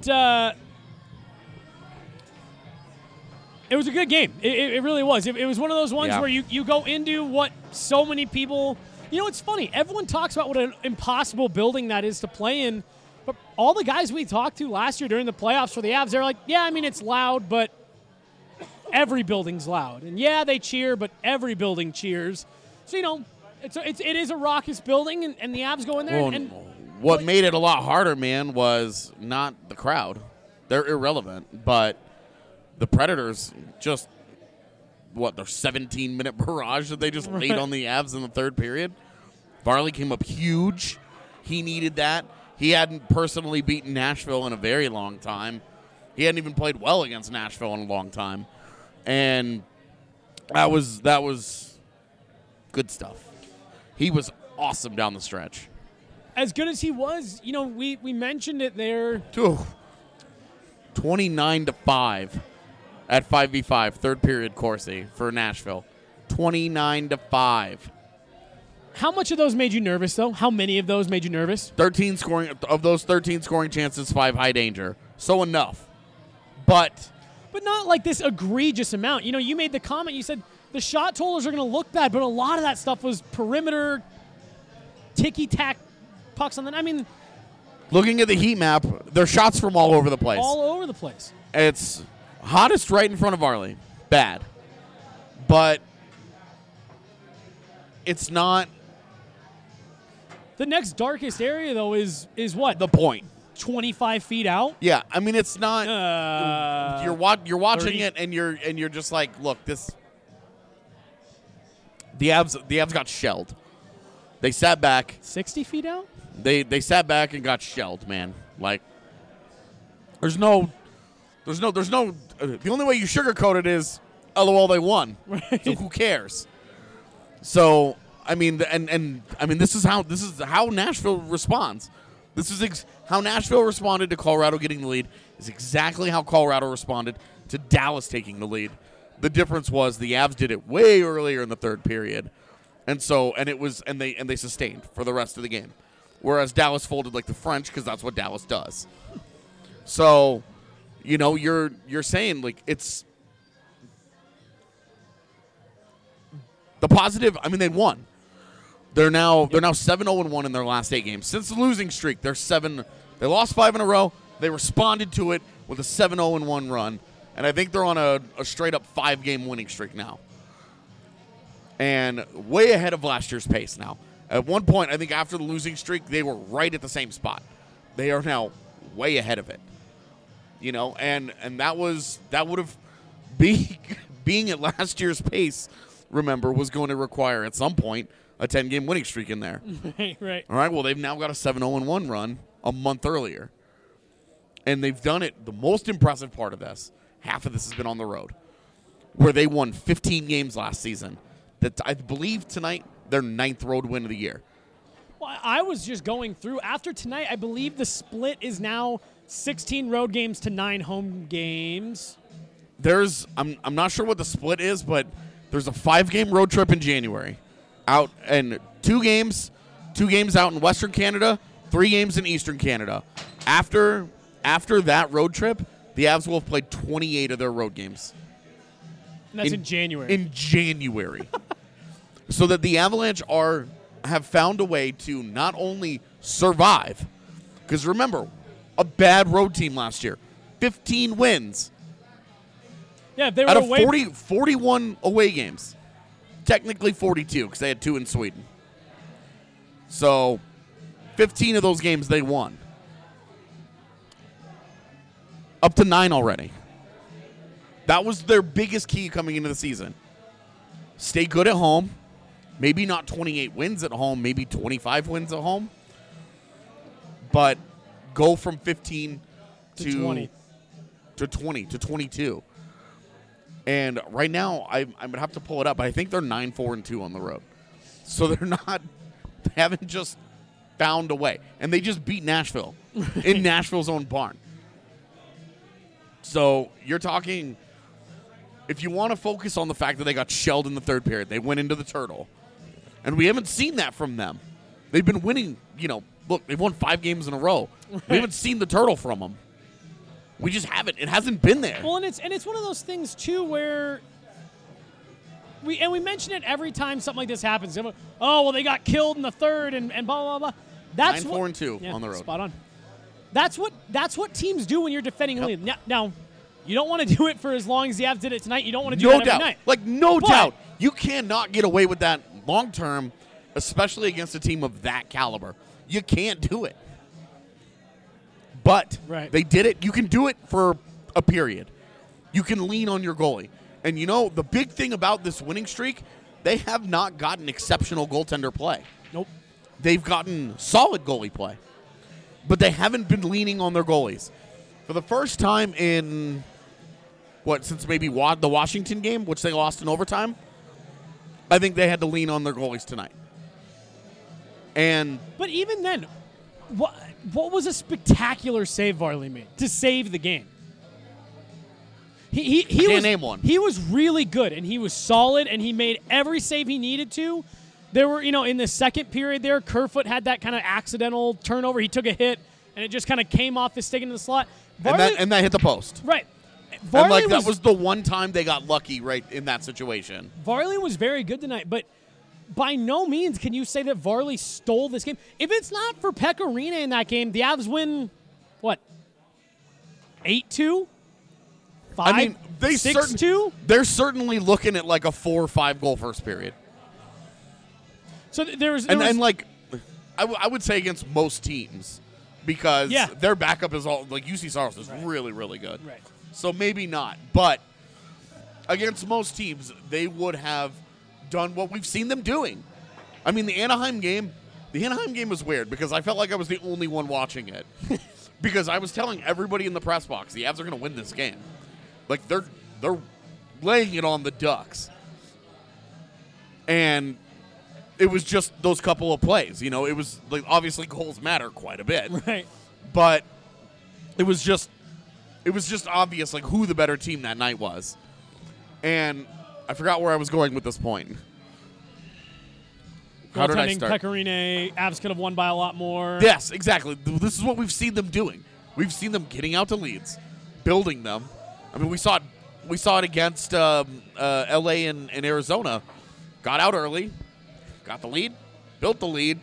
was a good game. It really was. It was one of those ones where you go into what so many people – you know, it's funny. Everyone talks about what an impossible building that is to play in, but all the guys we talked to last year during the playoffs for the Avs, they're like, yeah, I mean, it's loud, but every building's loud. And, yeah, they cheer, but every building cheers. So, you know, it is a raucous building, and the Avs go in there. Well, what made it a lot harder, man, was not the crowd. They're irrelevant, but the Predators just – their 17-minute barrage that they just laid on the Avs in the third period. Varley came up huge. He needed that. He hadn't personally beaten Nashville in a very long time. He hadn't even played well against Nashville in a long time. And that was good stuff. He was awesome down the stretch. As good as he was, you know, we mentioned it there. 29-5. at 5v5, third period Corsi for Nashville. 29-5. How much of those made you nervous, though? How many of those made you nervous? 13 scoring of those 13 scoring chances, 5 high danger. So enough. But not like this egregious amount. You know, you made the comment, you said the shot totalers are going to look bad, but a lot of that stuff was perimeter, ticky-tack pucks on the... I mean... Looking at the heat map, there's shots from all over the place. All over the place. It's hottest right in front of Varley. Bad. But it's not... The next darkest area, though, is what? The point. 25 feet out? Yeah, I mean, it's not... you're watching 30? it, and you're just like, look, this... The Avs got shelled. They sat back. 60 feet out? They sat back and got shelled, man. Like, there's no. The only way you sugarcoat it is, LOL, they won. Right. So who cares? So I mean, and I mean, this is how Nashville responds. This is how Nashville responded to Colorado getting the lead. Is exactly how Colorado responded to Dallas taking the lead. The difference was the Avs did it way earlier in the third period, and they sustained for the rest of the game. Whereas Dallas folded like the French because that's what Dallas does. So, you know, you're saying like it's the positive. I mean, they won. They're now 7-0-1 in their last 8 games since the losing streak. They're 7. They lost 5 in a row. They responded to it with a 7-0-1 run, and I think they're on a straight up 5-game winning streak now, and way ahead of last year's pace now. At one point, I think after the losing streak, they were right at the same spot. They are now way ahead of it. You know, and that would have being at last year's pace, remember, was going to require at some point a 10-game winning streak in there. Right. All right, well, they've now got a 7-0-1 run a month earlier. And they've done it. The most impressive part of this, half of this has been on the road, where they won 15 games last season. That I believe tonight, their 9th road win of the year. Well, I was just going through. After tonight, I believe the split is now 16 road games to 9 home games. I'm not sure what the split is, but there's a 5-game road trip in January. Out and 2 games out in Western Canada, 3 games in Eastern Canada. After that road trip, the Avs will have played 28 of their road games. And that's in January. In January. So that the Avalanche have found a way to not only survive, because remember, a bad road team last year, 15 wins. Yeah, they were out of away 41 away games. Technically 42 because they had 2 in Sweden. So 15 of those games they won. Up to 9 already. That was their biggest key coming into the season. Stay good at home. Maybe not 28 wins at home, maybe 25 wins at home. But go from 15 to 20 to 20 to 22. And right now, I'm going to have to pull it up, but I think they're 9-4-2 on the road. So they haven't just found a way. And they just beat Nashville in Nashville's own barn. So you're talking, if you want to focus on the fact that they got shelled in the third period, they went into the turtle. And we haven't seen that from them. They've been winning, look, they've won 5 games in a row. Right. We haven't seen the turtle from them. We just haven't. It hasn't been there. Well, and it's one of those things too where we mention it every time something like this happens. Oh, well, they got killed in the third and blah blah blah. That's 9-4-2 on the road. Spot on. That's what teams do when you're defending a lead. Now, you don't want to do it for as long as the Avs did it tonight. You don't want to do it every night. No doubt. You cannot get away with that long term, especially against a team of that caliber. You can't do it. But they did it. You can do it for a period. You can lean on your goalie. And the big thing about this winning streak, they have not gotten exceptional goaltender play. Nope. They've gotten solid goalie play. But they haven't been leaning on their goalies. For the first time in, since maybe the Washington game, which they lost in overtime, I think they had to lean on their goalies tonight. But even then, what was a spectacular save Varley made to save the game? He can't was, name one. He was really good, and he was solid, and he made every save he needed to. There were, in the second period there, Kerfoot had that kind of accidental turnover. He took a hit, and it just kind of came off his stick into the slot. Varley, and that hit the post. Right. Varley and that was the one time they got lucky right in that situation. Varley was very good tonight, but by no means can you say that Varley stole this game. If it's not for Pekka Rinne in that game, the Avs win, what, 8-2? 6-2? They're certainly looking at like a 4 or 5 goal first period. So there was I would say against most teams because their backup is all like UC Saros is really, really good. Right. So maybe not. But against most teams, they would have done what we've seen them doing. I mean, the Anaheim game was weird because I felt like I was the only one watching it. Because I was telling everybody in the press box, the Avs are going to win this game. Like, they're laying it on the Ducks. And it was just those couple of plays. It was like obviously goals matter quite a bit. Right. But it was just obvious like who the better team that night was. And I forgot where I was going with this point. How did I start? Pekka Rinne, Avs could have won by a lot more. Yes, exactly. This is what we've seen them doing. We've seen them getting out to leads, building them. I mean, we saw it against LA and Arizona. Got out early, got the lead, built the lead,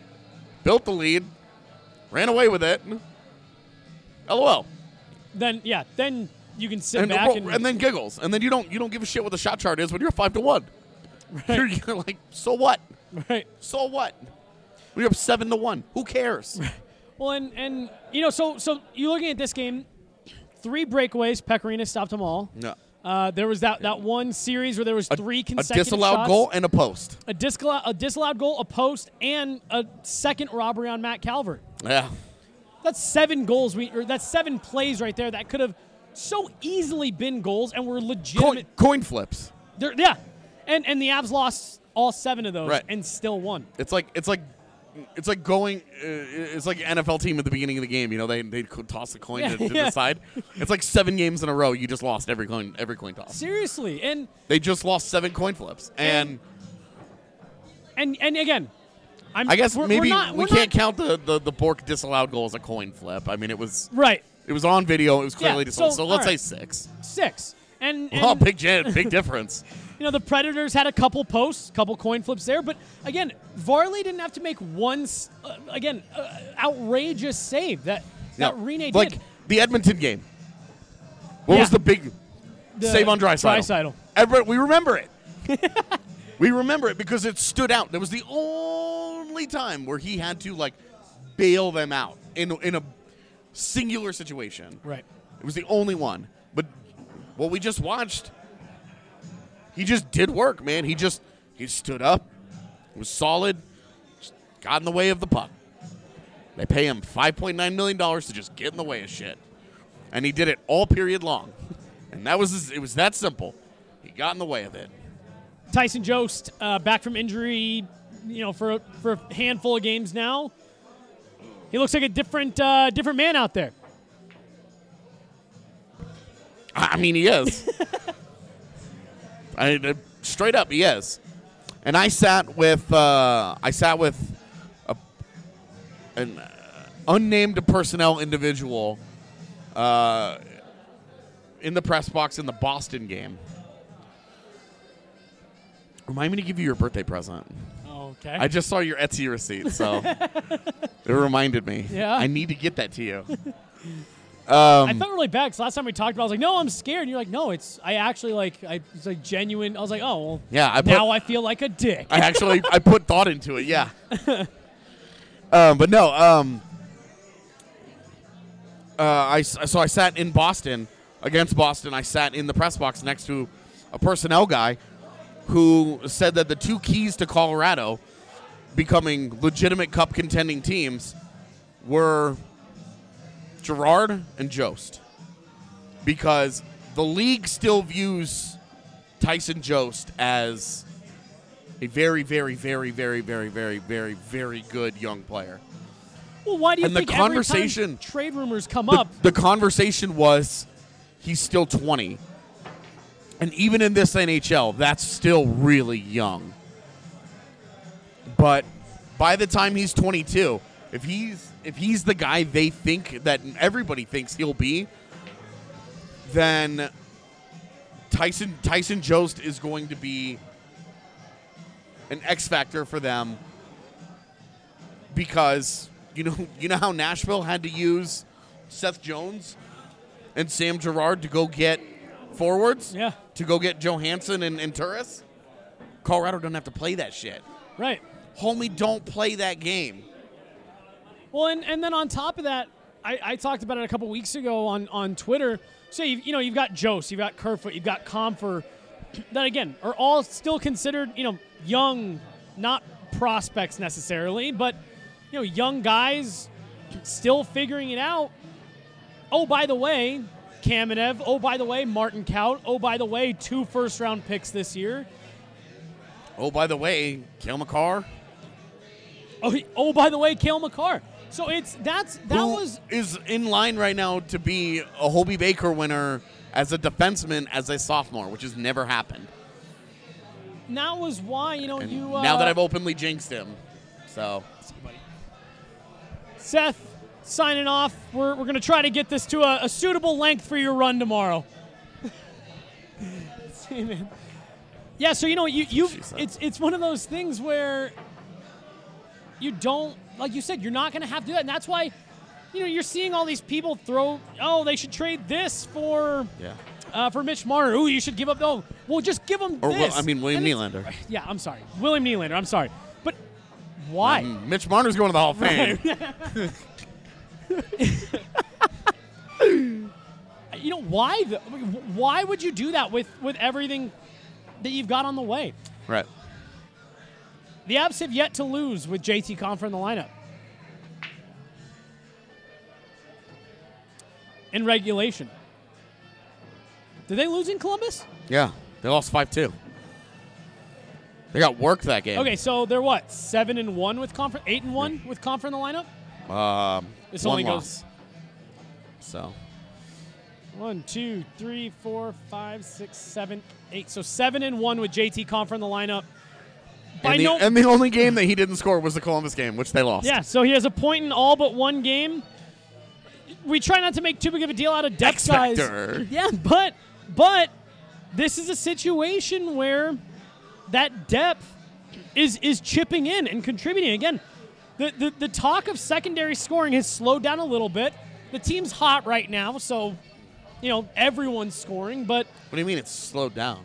ran away with it. LOL. Then you can sit back and then giggles, and then you don't give a shit what the shot chart is when you're 5-1. Right. You're like, so what? Right. So what? We're up 7-1. Who cares? Well, and so you're looking at this game, 3 breakaways. Pekka Rinne stopped them all. No. There was that one series where there was 3 consecutive a disallowed shots. goal and a post. A disallowed goal, a post, and a second robbery on Matt Calvert. Yeah. That's 7 goals. That's 7 plays right there that could have so easily been goals and were legitimate. Coin flips. Yeah. And the Avs lost all 7 of those and still won. It's like going. It's like an NFL team at the beginning of the game. They toss the coin to decide. It's like 7 games in a row. You just lost every coin toss. Seriously, and they just lost 7 coin flips. And again, I guess maybe we can't count the Bork disallowed goal as a coin flip. I mean, it was right. It was on video. It was clearly disallowed. So let's say 6. 6. And big difference. The Predators had a couple posts, couple coin flips there, but again, Varley didn't have to make one outrageous save that Rinne did. Like the Edmonton game. What was the big save on Draisaitl? We remember it. We remember it because it stood out. That was the only time where he had to bail them out in a singular situation. Right. It was the only one. But what we just watched, he just did work, man. He stood up, was solid, just got in the way of the puck. They pay him $5.9 million to just get in the way of shit. And he did it all period long. And it was that simple. He got in the way of it. Tyson Jost back from injury, for a handful of games now. He looks like a different man out there. I mean, he is. Straight up, he is. And I sat with an unnamed personnel individual in the press box in the Boston game. Remind me to give you your birthday present. Okay. I just saw your Etsy receipt, so it reminded me. Yeah. I need to get that to you. I felt really bad because last time we talked about it, I was like, no, I'm scared. And you're like, no, it's genuine. I was like, oh, well, yeah, now I feel like a dick. I put thought into it, yeah. But no, I sat in Boston, against Boston. I sat in the press box next to a personnel guy who said that the 2 keys to Colorado becoming legitimate cup contending teams were Girard and Jost, because the league still views Tyson Jost as a very, very, very, very, very, very, very, very good young player. Well, why do you think every time trade rumors come up? The conversation was he's still 20. And even in this NHL, that's still really young. But by the time he's 22, if he's the guy they think that everybody thinks he'll be, then Tyson Jost is going to be an X factor for them, because you know how Nashville had to use Seth Jones and Sam Girard to go get forwards? Yeah. To go get Johansson and Turris? Colorado don't have to play that shit. Right. Homie, don't play that game. Well, and then on top of that, I talked about it a couple weeks ago on Twitter. So, you've got Jost, you've got Kerfoot, you've got Comfer, that, again, are all still considered, young, not prospects necessarily, but, young guys still figuring it out. Oh, by the way, Kamenev. Oh, by the way, Martin Kaut. Oh, by the way, 2 first-round picks this year. Oh, by the way, Cale Makar. Oh, by the way, Cale Makar. So Who is in line right now to be a Hobey Baker winner as a defenseman as a sophomore, which has never happened. And that was why, now that I've openly jinxed him. So, Seth, signing off. We're going to try to get this to a suitable length for your run tomorrow. See, man. Yeah, so it's one of those things where you don't, like you said, you're not going to have to do that, and that's why you're seeing all these people throw, they should trade this for Mitch Marner. Ooh, you should give up. Oh, well, just give them this. William Nylander. Yeah, I'm sorry, William Nylander. I'm sorry, but why? Mitch Marner's going to the Hall of Fame. Why? Why would you do that with everything that you've got on the way? Right. The Avs have yet to lose with JT Compher in the lineup. In regulation. Did they lose in Columbus? Yeah, they lost 5-2. They got worked that game. Okay, so they're what? 7-1 with Compher, 8-1 with Compher in the lineup. This one only loss. goes. So 1, 2, 3, 4, 5, 6, 7, 8. So 7-1 with JT Compher in the lineup. And the only game that he didn't score was the Columbus game, which they lost. Yeah, so he has a point in all but one game. We try not to make too big of a deal out of depth guys. Yeah, but this is a situation where that depth is chipping in and contributing. Again, the talk of secondary scoring has slowed down a little bit. The team's hot right now, so everyone's scoring. But what do you mean it's slowed down?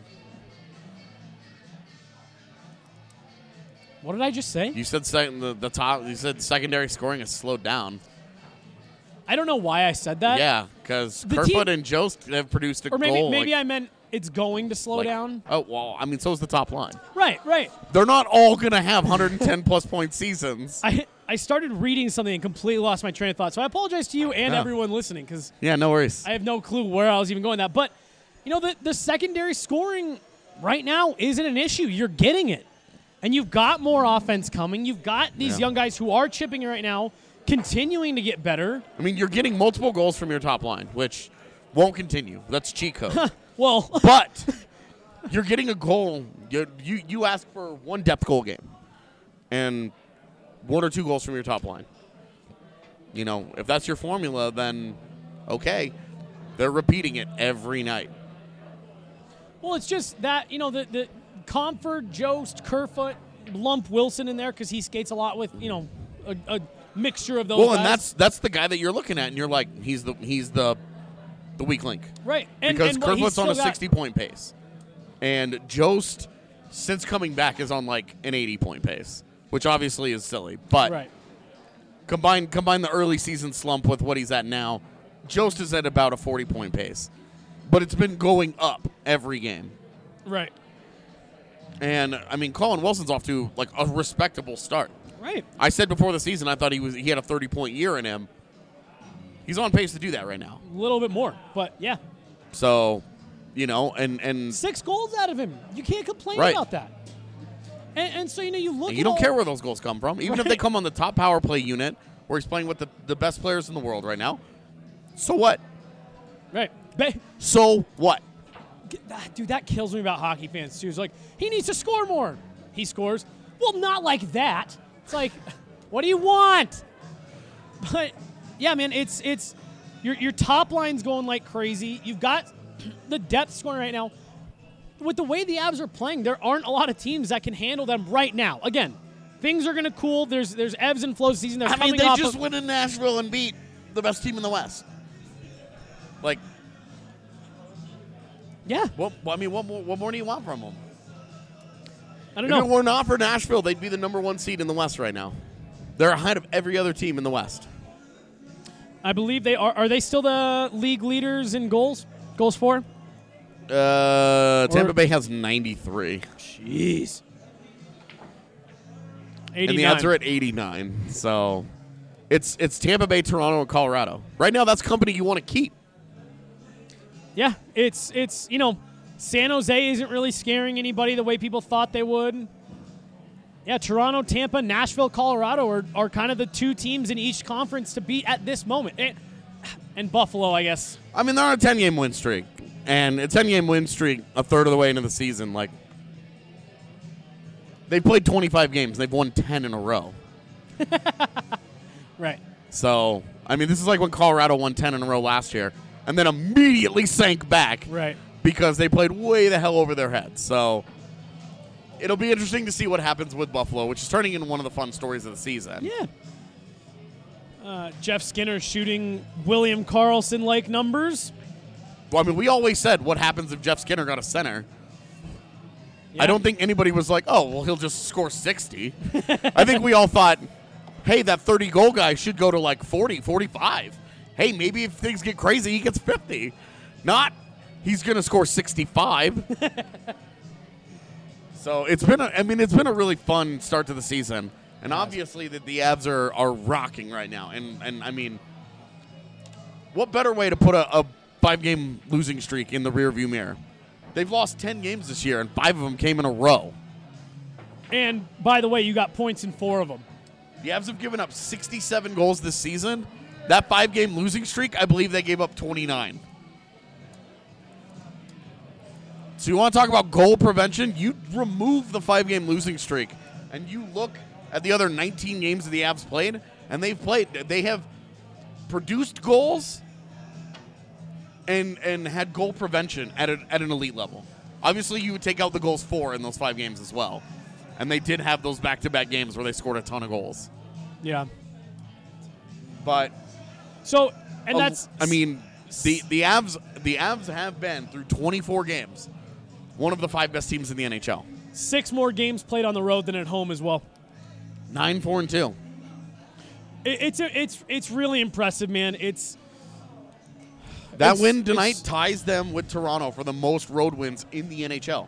What did I just say? You said the top. You said secondary scoring has slowed down. I don't know why I said that. Yeah, because Kerfoot and Jost have produced a goal. Or maybe I meant it's going to slow down. Oh, well, so is the top line. Right. They're not all going to have 110-plus point seasons. I started reading something and completely lost my train of thought. So I apologize to you and everyone listening, because no worries. I have no clue where I was even going with that. But, the secondary scoring right now isn't an issue. You're getting it. And you've got more offense coming. You've got these young guys who are chipping right now, continuing to get better. I mean, you're getting multiple goals from your top line, which won't continue. That's cheat code. Well, but you're getting a goal. You ask for one depth goal game and 1 or 2 goals from your top line. If that's your formula, then okay. They're repeating it every night. Well, it's just that, the Compher, Jost, Kerfoot, lump Wilson in there because he skates a lot with, a mixture of those guys. Well, and that's the guy that you're looking at, and you're like, he's the weak link. Right. Because Kerfoot's on a 60-point pace. And Jost, since coming back, is on like an 80-point pace, which obviously is silly. But combine the early season slump with what he's at now, Jost is at about a 40-point pace. But it's been going up every game. Right. And, Colin Wilson's off to like a respectable start. Right. I said before the season I thought he had a 30-point year in him. He's on pace to do that right now. A little bit more, but yeah. So, and 6 goals out of him. You can't complain about that. And so, you look at you don't care where those goals come from. Even if they come on the top power play unit where he's playing with the best players in the world right now. So what? Right. So what? Dude, that kills me about hockey fans, too. It's like, he needs to score more. He scores. Well, not like that. It's like, what do you want? But, yeah, man, it's your top line's going like crazy. You've got the depth scoring right now. With the way the Avs are playing, there aren't a lot of teams that can handle them right now. Again, things are going to cool. There's ebbs and flows season. They're coming they off just of, went in Nashville and beat the best team in the West. Like, yeah. what more do you want from them? I don't If know. it were not for Nashville, they'd be the number 1 seed in the West right now. They're ahead of every other team in the West. I believe they are. Are they still the league leaders in goals? Goals for? Tampa Bay has 93. Jeez. 89. And the Avs are at 89. So it's Tampa Bay, Toronto, and Colorado. Right now, that's company you want to keep. Yeah, it's San Jose isn't really scaring anybody the way people thought they would. Yeah, Toronto, Tampa, Nashville, Colorado are kind of the 2 teams in each conference to beat at this moment. And Buffalo, I guess. I mean, they're on a 10-game win streak. And a 10-game win streak a third of the way into the season. Like, they played 25 games. They've won 10 in a row. Right. So, I mean, this is like when Colorado won 10 in a row last year and then immediately sank back. Right. Because they played way the hell over their heads. So, it'll be interesting to see what happens with Buffalo, which is turning into one of the fun stories of the season. Yeah. Jeff Skinner shooting William Karlsson-like numbers. Well, I mean, we always said, what happens if Jeff Skinner got a center? Yeah. I don't think anybody was like, oh, well, he'll just score 60. I think we all thought, hey, that 30-goal guy should go to like 40, 45. Hey, maybe if things get crazy, he gets 50. Not, he's going to score 65. So it's been a really fun start to the season. And obviously the Avs are rocking right now. And I mean, what better way to put a 5-game losing streak in the rearview mirror? They've lost 10 games this year, and 5 of them came in a row. And, by the way, you got points in 4 of them. The Avs have given up 67 goals this season. That 5-game losing streak, I believe they gave up 29. So you want to talk about goal prevention? You remove the 5-game losing streak, and you look at the other 19 games that the Avs played, and they have produced goals and had goal prevention at an elite level. Obviously, you would take out the goals for in those 5 games as well. And they did have those back-to-back games where they scored a ton of goals. Yeah. But so, and that's I mean, the Avs have been through 24 games one of the 5 best teams in the NHL. 6 more games played on the road than at home as well. 9-4-2. It's really impressive, man. That win tonight ties them with Toronto for the most road wins in the NHL.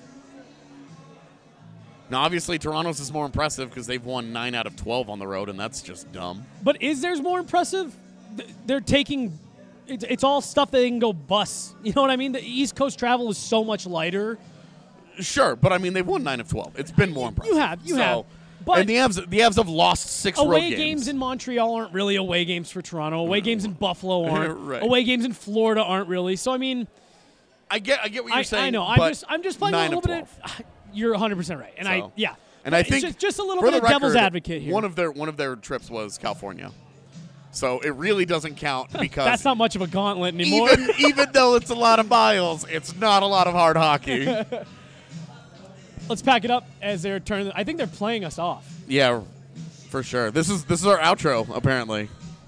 Now, obviously, Toronto's is more impressive because they've won 9 out of 12 on the road, and that's just dumb. But is theirs more impressive? They're taking it's all stuff that they can go bus. You know what I mean? The East Coast travel is so much lighter. Sure, but I mean, they've won 9 of 12. It's been more impressive. You have. But and the Avs have lost 6 road games. Away games in Montreal aren't really away games for Toronto. Away games in Buffalo aren't. Right. Away games in Florida aren't really. So I mean, I get what you're saying. I know. But I'm just playing a little bit. You're 100% right, and So, And I think it's just a little for bit of the devil's record, advocate here. One of their trips was California, so it really doesn't count because that's not much of a gauntlet anymore. Even though it's a lot of miles, it's not a lot of hard hockey. Let's pack it up as they're turning. I think they're playing us off. Yeah, for sure. This is our outro apparently.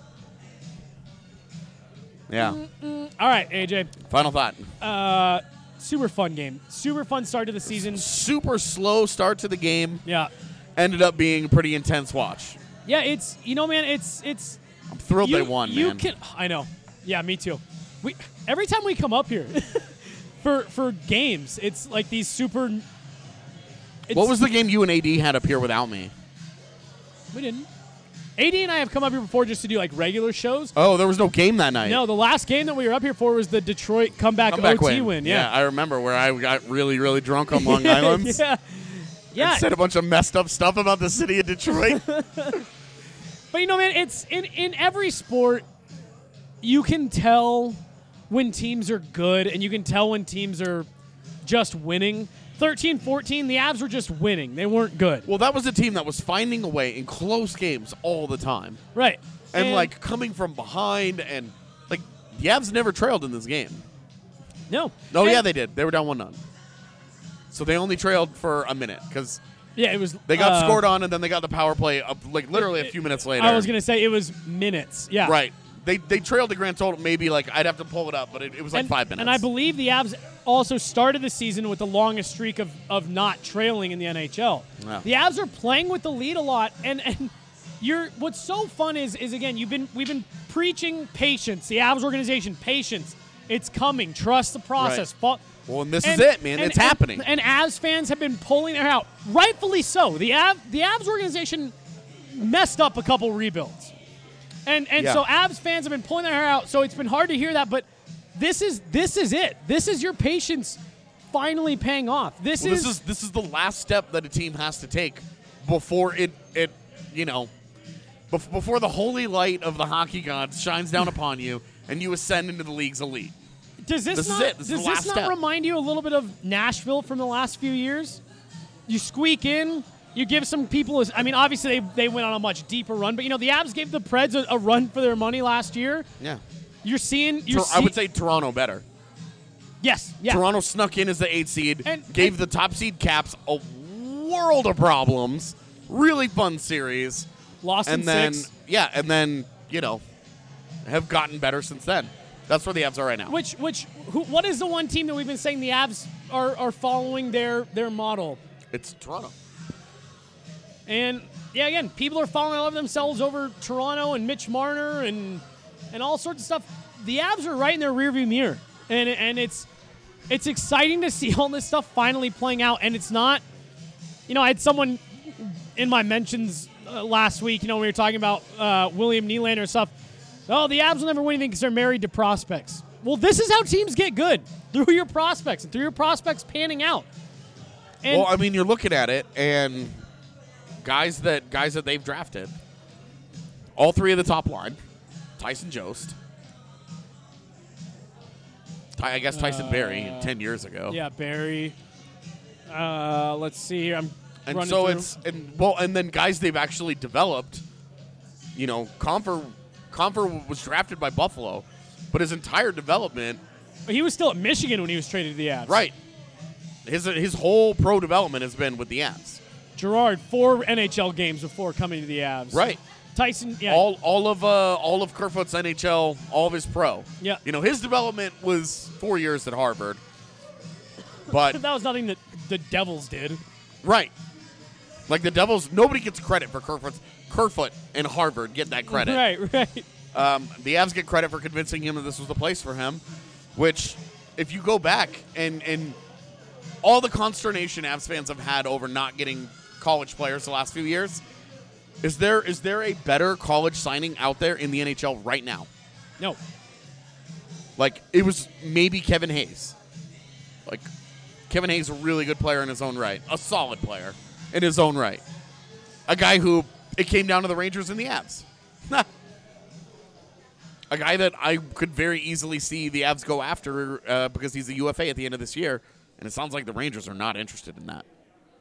Yeah. All right, AJ. Final thought. Super fun game. Super fun start to the season. Super slow start to the game. Yeah. Ended up being a pretty intense watch. Yeah, it's man, it's. I'm thrilled they won, man. I know. Yeah, me too. Every time we come up here for games, it's like these super. What was the game you and AD had up here without me? We didn't. AD and I have come up here before just to do like regular shows. Oh, there was no game that night. No, the last game that we were up here for was the Detroit comeback OT win. Yeah, I remember where I got really, really drunk on Long Island. Yeah. And said a bunch of messed up stuff about the city of Detroit. But man, it's in every sport, you can tell when teams are good, and you can tell when teams are just winning. 13-14, the Avs were just winning. They weren't good. Well, that was a team that was finding a way in close games all the time. Right. And like, coming from behind, and, like, the Avs never trailed in this game. No. Oh, yeah, they did. They were down 1-0. So they only trailed for a minute because it was. they got scored on, and then they got the power play up, like, literally a few minutes later. I was going to say it was minutes. Yeah. Right. They trailed the grand total, maybe, like, I'd have to pull it up, but it was like 5 minutes. And I believe the Avs also started the season with the longest streak of not trailing in the NHL. Wow. The Avs are playing with the lead a lot, and what's so fun is again, we've been preaching patience. The Avs organization, patience. It's coming. Trust the process. Right. Well, and this is it, man. It's happening. And Avs fans have been pulling their hair out, rightfully so. The Avs organization messed up a couple rebuilds. And so Avs fans have been pulling their hair out, so it's been hard to hear that, but this is it. This is your patience finally paying off. This is the last step that a team has to take before it before the holy light of the hockey gods shines down upon you and you ascend into the league's elite. Does this not remind you a little bit of Nashville from the last few years? You squeak in. You give some people, obviously they went on a much deeper run, but, the Avs gave the Preds a run for their money last year. Yeah. I would say Toronto better. Yes. Yeah. Toronto snuck in as the 8th seed, gave the top seed Caps a world of problems. Really fun series. Lost in 6. Yeah, and then, have gotten better since then. That's where the Avs are right now. What is the one team that we've been saying the Avs are following their model? It's Toronto. And, yeah, again, people are falling in love with themselves over Toronto and Mitch Marner and all sorts of stuff. The Avs are right in their rearview mirror. And it's exciting to see all this stuff finally playing out. And it's not, I had someone in my mentions last week, we were talking about William Nylander and stuff. Oh, the Avs will never win anything because they're married to prospects. Well, this is how teams get good, through your prospects and through your prospects panning out. And you're looking at it, and guys that they've drafted, all 3 of the top line, Tyson Jost, I guess Tyson Barrie 10 years ago. Yeah, Barrie. Let's see here. And so and then guys they've actually developed. Comfer was drafted by Buffalo, but his entire development. But he was still at Michigan when he was traded to the Avs. Right. His whole pro development has been with the Avs. Gerard, 4 NHL games before coming to the Avs. Right. Tyson, yeah. All of Kerfoot's NHL, all of his pro. Yeah. His development was 4 years at Harvard. But that was nothing that the Devils did. Right. Like the Devils, nobody gets credit for Kerfoot and Harvard get that credit. Right. The Avs get credit for convincing him that this was the place for him, which, if you go back and all the consternation Avs fans have had over not getting college players the last few years, is there a better college signing out there in the NHL right now? No. Like, it was maybe Kevin Hayes. Like, Kevin Hayes is a really good player in his own right. A solid player in his own right. A guy who, it came down to the Rangers and the Avs. A guy that I could very easily see the Avs go after because he's a UFA at the end of this year, and it sounds like the Rangers are not interested in that.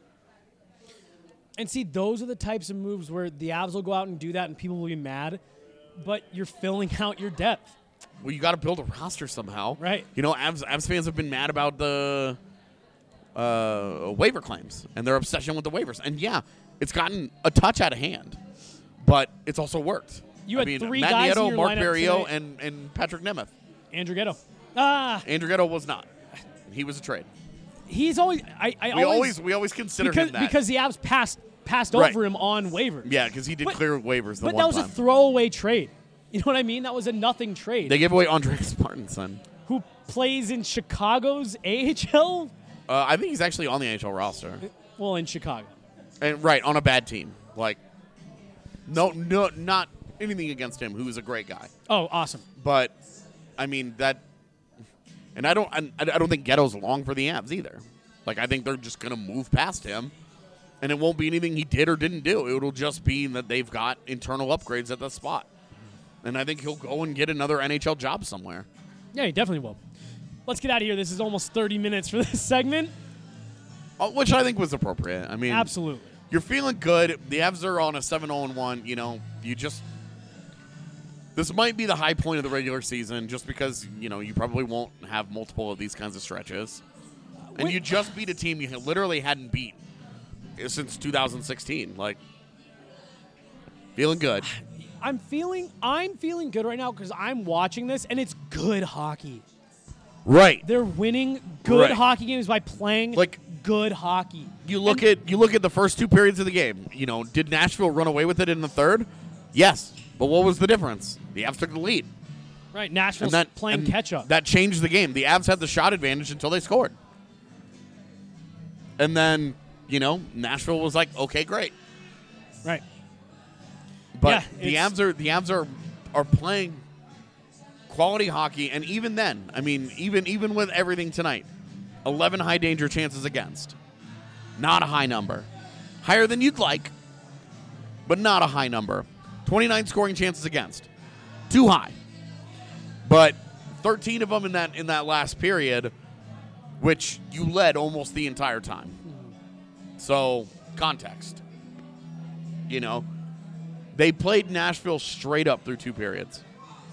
And see, those are the types of moves where the Avs will go out and do that and people will be mad, but you're filling out your depth. Well, you got to build a roster somehow. Right. Avs fans have been mad about the waiver claims and their obsession with the waivers. And, yeah, it's gotten a touch out of hand, but it's also worked. You had 3 Matt guys Nieto, in your Mark lineup Barrio, tonight. and Patrick Nemeth. Andrew Ghetto. Andrew Ghetto was not. He was a trade. He's always. We always consider him that because the Avs passed Right. over him on waivers. Yeah, because he did clear waivers. But that was a throwaway trade. You know what I mean? That was a nothing trade. They gave away Andreas Martinson, who plays in Chicago's AHL. I think he's actually on the NHL roster. Well, in Chicago. And right on a bad team. Like, no, not anything against him. Who's a great guy. Oh, awesome. But I mean that, and I don't think Ghetto's long for the Avs either. Like, I think they're just gonna move past him, and it won't be anything he did or didn't do. It'll just be that they've got internal upgrades at the spot, and I think he'll go and get another NHL job somewhere. Yeah, he definitely will. Let's get out of here. This is almost 30 minutes for this segment. Which I think was appropriate. I mean, Absolutely. You're feeling good. The Avs are on a 7-0-1. You know, this might be the high point of the regular season just because, you know, you probably won't have multiple of these kinds of stretches. And you just beat a team you literally hadn't beat since 2016. Like, feeling good. I'm feeling good right now because I'm watching this, and it's good hockey. Right. They're winning good Right. hockey games by playing Like, good hockey. You look at the first 2 periods of the game. You know, did Nashville run away with it in the third? Yes. But what was the difference? The Avs took the lead. Right, Nashville's playing and catch-up. That changed the game. The Avs had the shot advantage until they scored. And then, you know, Nashville was like, okay, great. Right. But Yeah, the Avs are playing quality hockey, and even then, I mean, even with everything tonight, 11 high danger chances against. Not a high number. Higher than you'd like, but not a high number. 29 scoring chances against. Too high. But 13 of them in that last period, which you led almost the entire time. So, context. You know, they played Nashville straight up through 2 periods.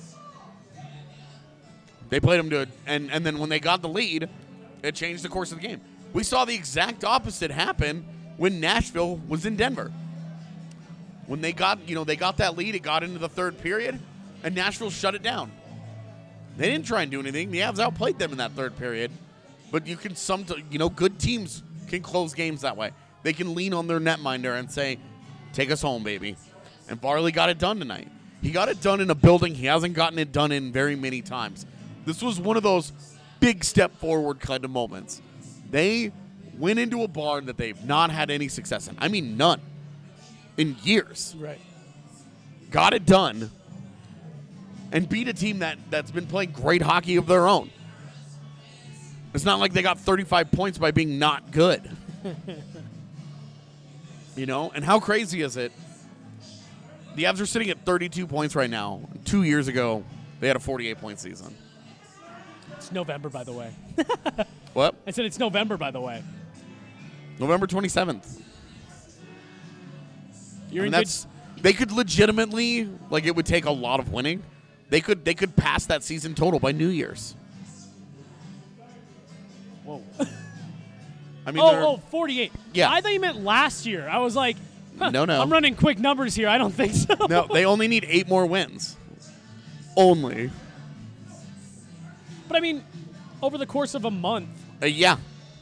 They played them to, and then when they got the lead, it changed the course of the game. We saw the exact opposite happen when Nashville was in Denver. When they got that lead, it got into the third period, and Nashville shut it down. They didn't try and do anything. The Avs outplayed them in that third period. But you can good teams can close games that way. They can lean on their netminder and say, "Take us home, baby." And Varley got it done tonight. He got it done in a building he hasn't gotten it done in very many times. This was one of those big step forward kind of moments. They went into a barn that they've not had any success in. I mean, none. In years. Right. Got it done. And beat a team that's been playing great hockey of their own. It's not like they got 35 points by being not good. You know? And how crazy is it? The Avs are sitting at 32 points right now. 2 years ago, they had a 48-point season. It's November, by the way. What? I said it's November, by the way. November 27th. You're in that's, they could legitimately, like, it would take a lot of winning. They could pass that season total by New Year's. Whoa. I mean, 48. Yeah. I thought you meant last year. I was like, no. I'm running quick numbers here. I don't think so. No, they only need 8 more wins. Only. But, I mean, over the course of a month. Yeah.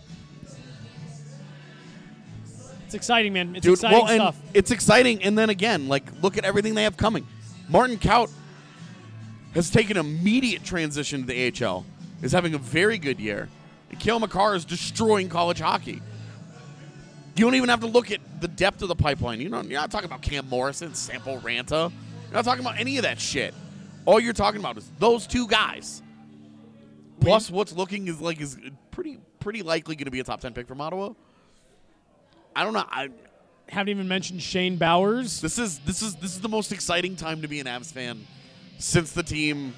It's exciting, man. It's Dude, exciting and stuff. It's exciting, and then again, like, look at everything they have coming. Martin Kaut has taken immediate transition to the AHL, is having a very good year. And Cale Makar is destroying college hockey. You don't even have to look at the depth of the pipeline. You're not talking about Cam Morrison, Sampo Ranta. You're not talking about any of that shit. All you're talking about is those 2 guys. Plus, what's looking is pretty likely going to be a top 10 pick from Ottawa. I don't know. I haven't even mentioned Shane Bowers. This is the most exciting time to be an Avs fan since the team.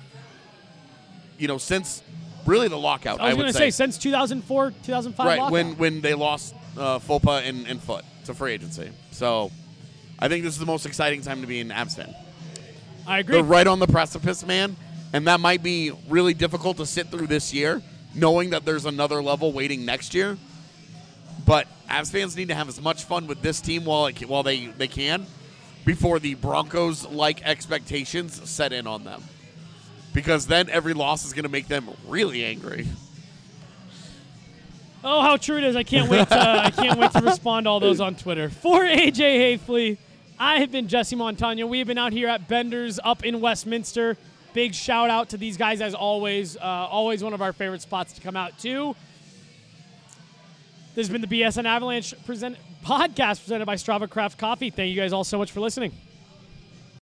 Since really the lockout. I was going to say since 2004, 2005. Right lockout. when they lost Fopa and Foot to free agency. So I think this is the most exciting time to be an Avs fan. I agree. They're right on the precipice, man. And that might be really difficult to sit through this year, knowing that there's another level waiting next year. But Avs fans need to have as much fun with this team while they can before the Broncos-like expectations set in on them. Because then every loss is going to make them really angry. Oh, how true it is. I can't wait to respond to all those on Twitter. For AJ Hafley, I have been Jesse Montano. We have been out here at Bender's up in Westminster. Big shout out to these guys as always. Always one of our favorite spots to come out to. This has been the BSN Avalanche podcast presented by Strava Craft Coffee. Thank you guys all so much for listening.